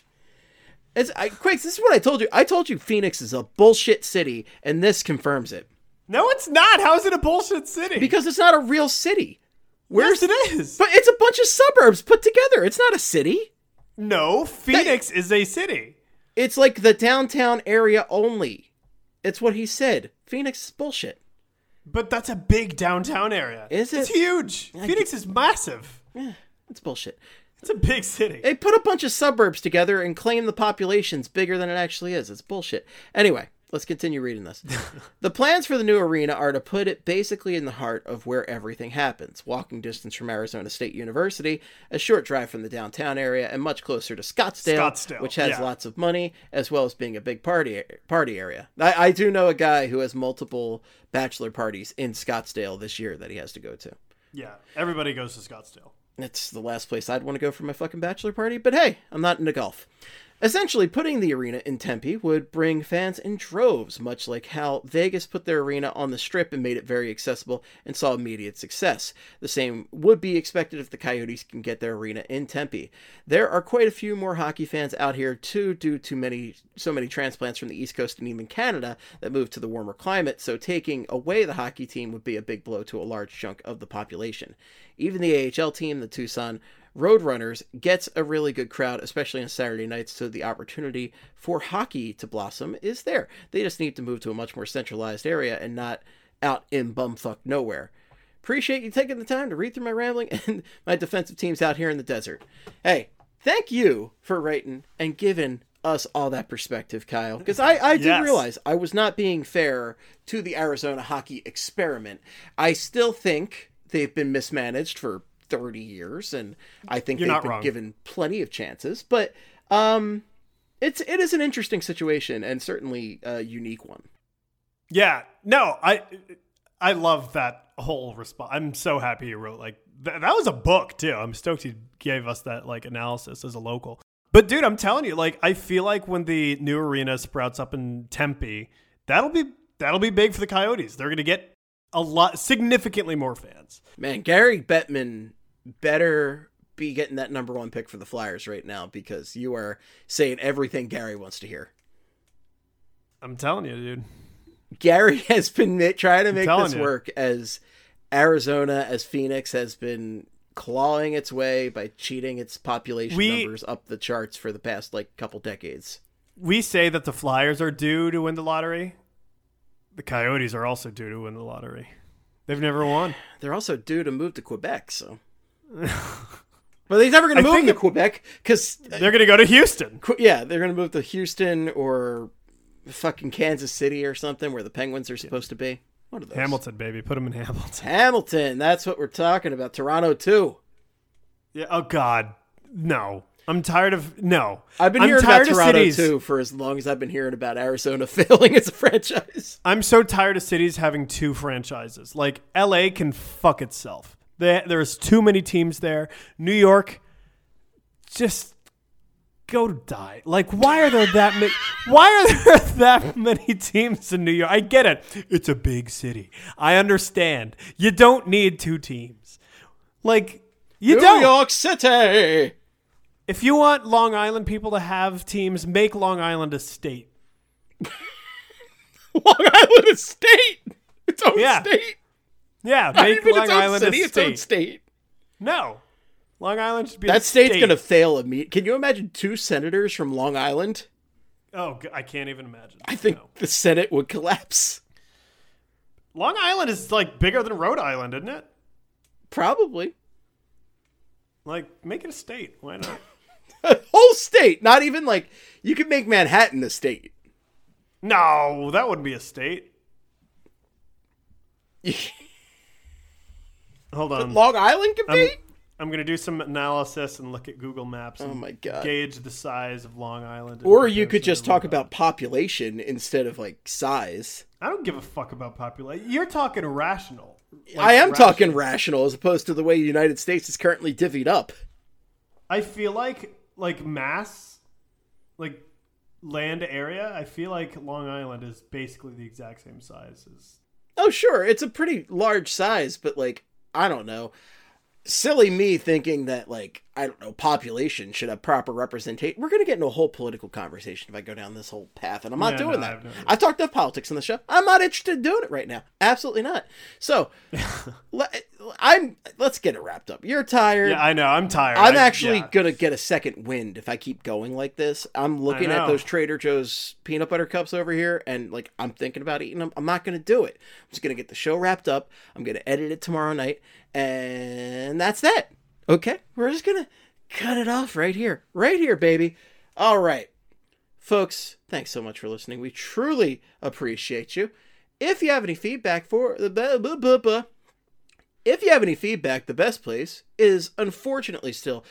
Quakes, this is what I told you. I told you Phoenix is a bullshit city, and this confirms it. No, it's not. How is it a bullshit city? Because it's not a real city. yes, it is. But it's a bunch of suburbs put together. It's not a city. No, Phoenix is a city. It's like the downtown area only. It's what he said. Phoenix is bullshit. But that's a big downtown area. Is it? It's huge. Phoenix is massive. It's bullshit. It's a big city. They put a bunch of suburbs together and claim the population's bigger than it actually is. It's bullshit. Anyway, let's continue reading this. The plans for the new arena are to put it basically in the heart of where everything happens. Walking distance from Arizona State University, a short drive from the downtown area, and much closer to Scottsdale, which has lots of money, as well as being a big party area. I do know a guy who has multiple bachelor parties in Scottsdale this year that he has to go to. Yeah, everybody goes to Scottsdale. It's the last place I'd want to go for my fucking bachelor party, but hey, I'm not into golf. Essentially, putting the arena in Tempe would bring fans in droves, much like how Vegas put their arena on the Strip and made it very accessible and saw immediate success. The same would be expected if the Coyotes can get their arena in Tempe. There are quite a few more hockey fans out here too, due to so many transplants from the East Coast and even Canada that moved to the warmer climate, so taking away the hockey team would be a big blow to a large chunk of the population. Even the AHL team, the Tucson Roadrunners, gets a really good crowd, especially on Saturday nights, so the opportunity for hockey to blossom is there. They just need to move to a much more centralized area and not out in bumfuck nowhere. Appreciate you taking the time to read through my rambling and my defensive teams out here in the desert. Hey, thank you for writing and giving us all that perspective, Kyle, because I did realize I was not being fair to the Arizona hockey experiment. I still think they've been mismanaged for 30 years, and I think they've been given plenty of chances, but it is an interesting situation and certainly a unique one. Yeah, no, I love that whole response. I'm so happy you wrote that was a book too. I'm stoked you gave us that analysis as a local. But dude, I'm telling you, I feel like when the new arena sprouts up in Tempe, that'll be big for the Coyotes. They're going to get significantly more fans. Man, Gary Bettman better be getting that number 1 pick for the Flyers right now, because you are saying everything Gary wants to hear. I'm telling you, dude. Gary has been trying to make this work as Arizona, as Phoenix has been clawing its way by cheating its population numbers up the charts for the past couple decades. We say that the Flyers are due to win the lottery. The Coyotes are also due to win the lottery. They've never won. They're also due to move to Quebec, so. But they're never going to move to Quebec because they're going to go to Houston. Yeah, they're going to move to Houston or fucking Kansas City or something where the Penguins are supposed to be. What are those? Hamilton, baby. Put them in Hamilton. Hamilton. That's what we're talking about. Toronto, too. Yeah. Oh, God. No. I'm tired of no. I've been I'm hearing about tired of Toronto cities. too for as long as I've been hearing about Arizona failing as a franchise. I'm so tired of cities having two franchises. Like LA can fuck itself. There's too many teams there. New York, just go die. Like, why are there that many? Why are there that many teams in New York? I get it. It's a big city. I understand. You don't need two teams. Like, you don't. New York City. If you want Long Island people to have teams, make Long Island a state. Long Island is state. Its own state. Yeah, Not make even Long its own Island city, a its own state. state. No. Long Island should be That a state's state. going to fail immediately. Can you imagine 2 senators from Long Island? Oh, I can't even imagine. I think the Senate would collapse. Long Island is like bigger than Rhode Island, isn't it? Probably. Like, make it a state. Why not? A whole state. Not even like, you could make Manhattan a state. No, that wouldn't be a state. Hold on. Long Island could be? I'm going to do some analysis and look at Google Maps and Oh my God. gauge the size of Long Island. in Or you could comparison just to Rhode talk about population instead of like size. Island. I don't give a fuck about population. You're talking rational. Like, I am rational. talking rational as opposed to the way the United States is currently divvied up. I feel like mass, like land area, I feel like Long Island is basically the exact same size as... Oh, sure. It's a pretty large size, but like, I don't know. Silly me thinking that, like, I don't know, population should have proper representation. We're going to get into a whole political conversation if I go down this whole path, and I'm not doing that. I've talked about politics on the show. I'm not interested in doing it right now. Absolutely not. So, let's get it wrapped up. You're tired. Yeah, I know. I'm tired. I'm actually going to get a second wind if I keep going like this. I'm looking at know. those Trader Joe's peanut butter cups over here, and, like, I'm thinking about eating them. I'm not going to do it. I'm just going to get the show wrapped up. I'm going to edit it tomorrow night. And that's that. Okay? We're just going to cut it off right here. Right here, baby. All right. Folks, thanks so much for listening. We truly appreciate you. If you have any feedback the best place is unfortunately still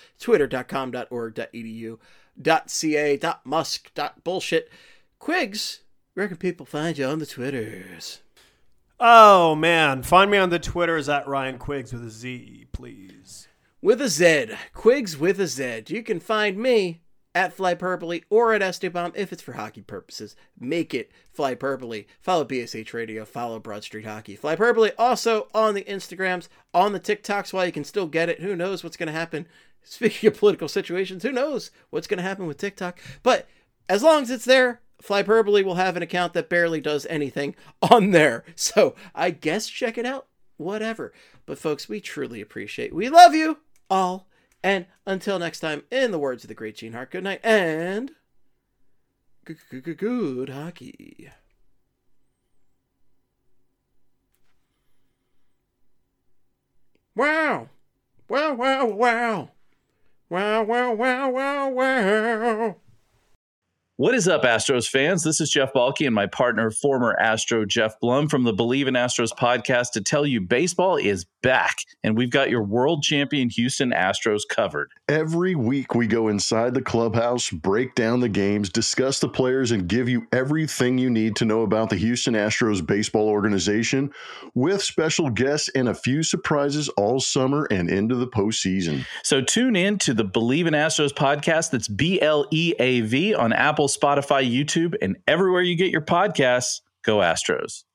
twitter.com.org.edu.ca.musk.bullshit. Quigs, where can people find you on the Twitters? Oh, man. Find me on the Twitters at Ryan Quiggs with a Z, please. With a Z. Quigs with a Z. You can find me at Flyperpole or at Esteban if it's for hockey purposes. Make it Flyperpole. Follow BSH Radio. Follow Broad Street Hockey. Flyperpole also on the Instagrams, on the TikToks while you can still get it. Who knows what's going to happen? Speaking of political situations, who knows what's going to happen with TikTok? But as long as it's there, Flyperpole will have an account that barely does anything on there. So I guess check it out. Whatever. But folks, we truly appreciate. We love you all. And until next time, in the words of the great Gene Hart, good night and good hockey. Wow. Wow, wow, wow. Wow, wow, wow, wow, wow. What is up, Astros fans? This is Jeff Balke and my partner, former Astro Jeff Blum from the Believe in Astros podcast to tell you baseball is back, and we've got your world champion Houston Astros covered. Every week we go inside the clubhouse, break down the games, discuss the players, and give you everything you need to know about the Houston Astros baseball organization with special guests and a few surprises all summer and into the postseason. So tune in to the Believe in Astros podcast. That's BLEAV on Apple, Spotify, YouTube, and everywhere you get your podcasts. Go Astros.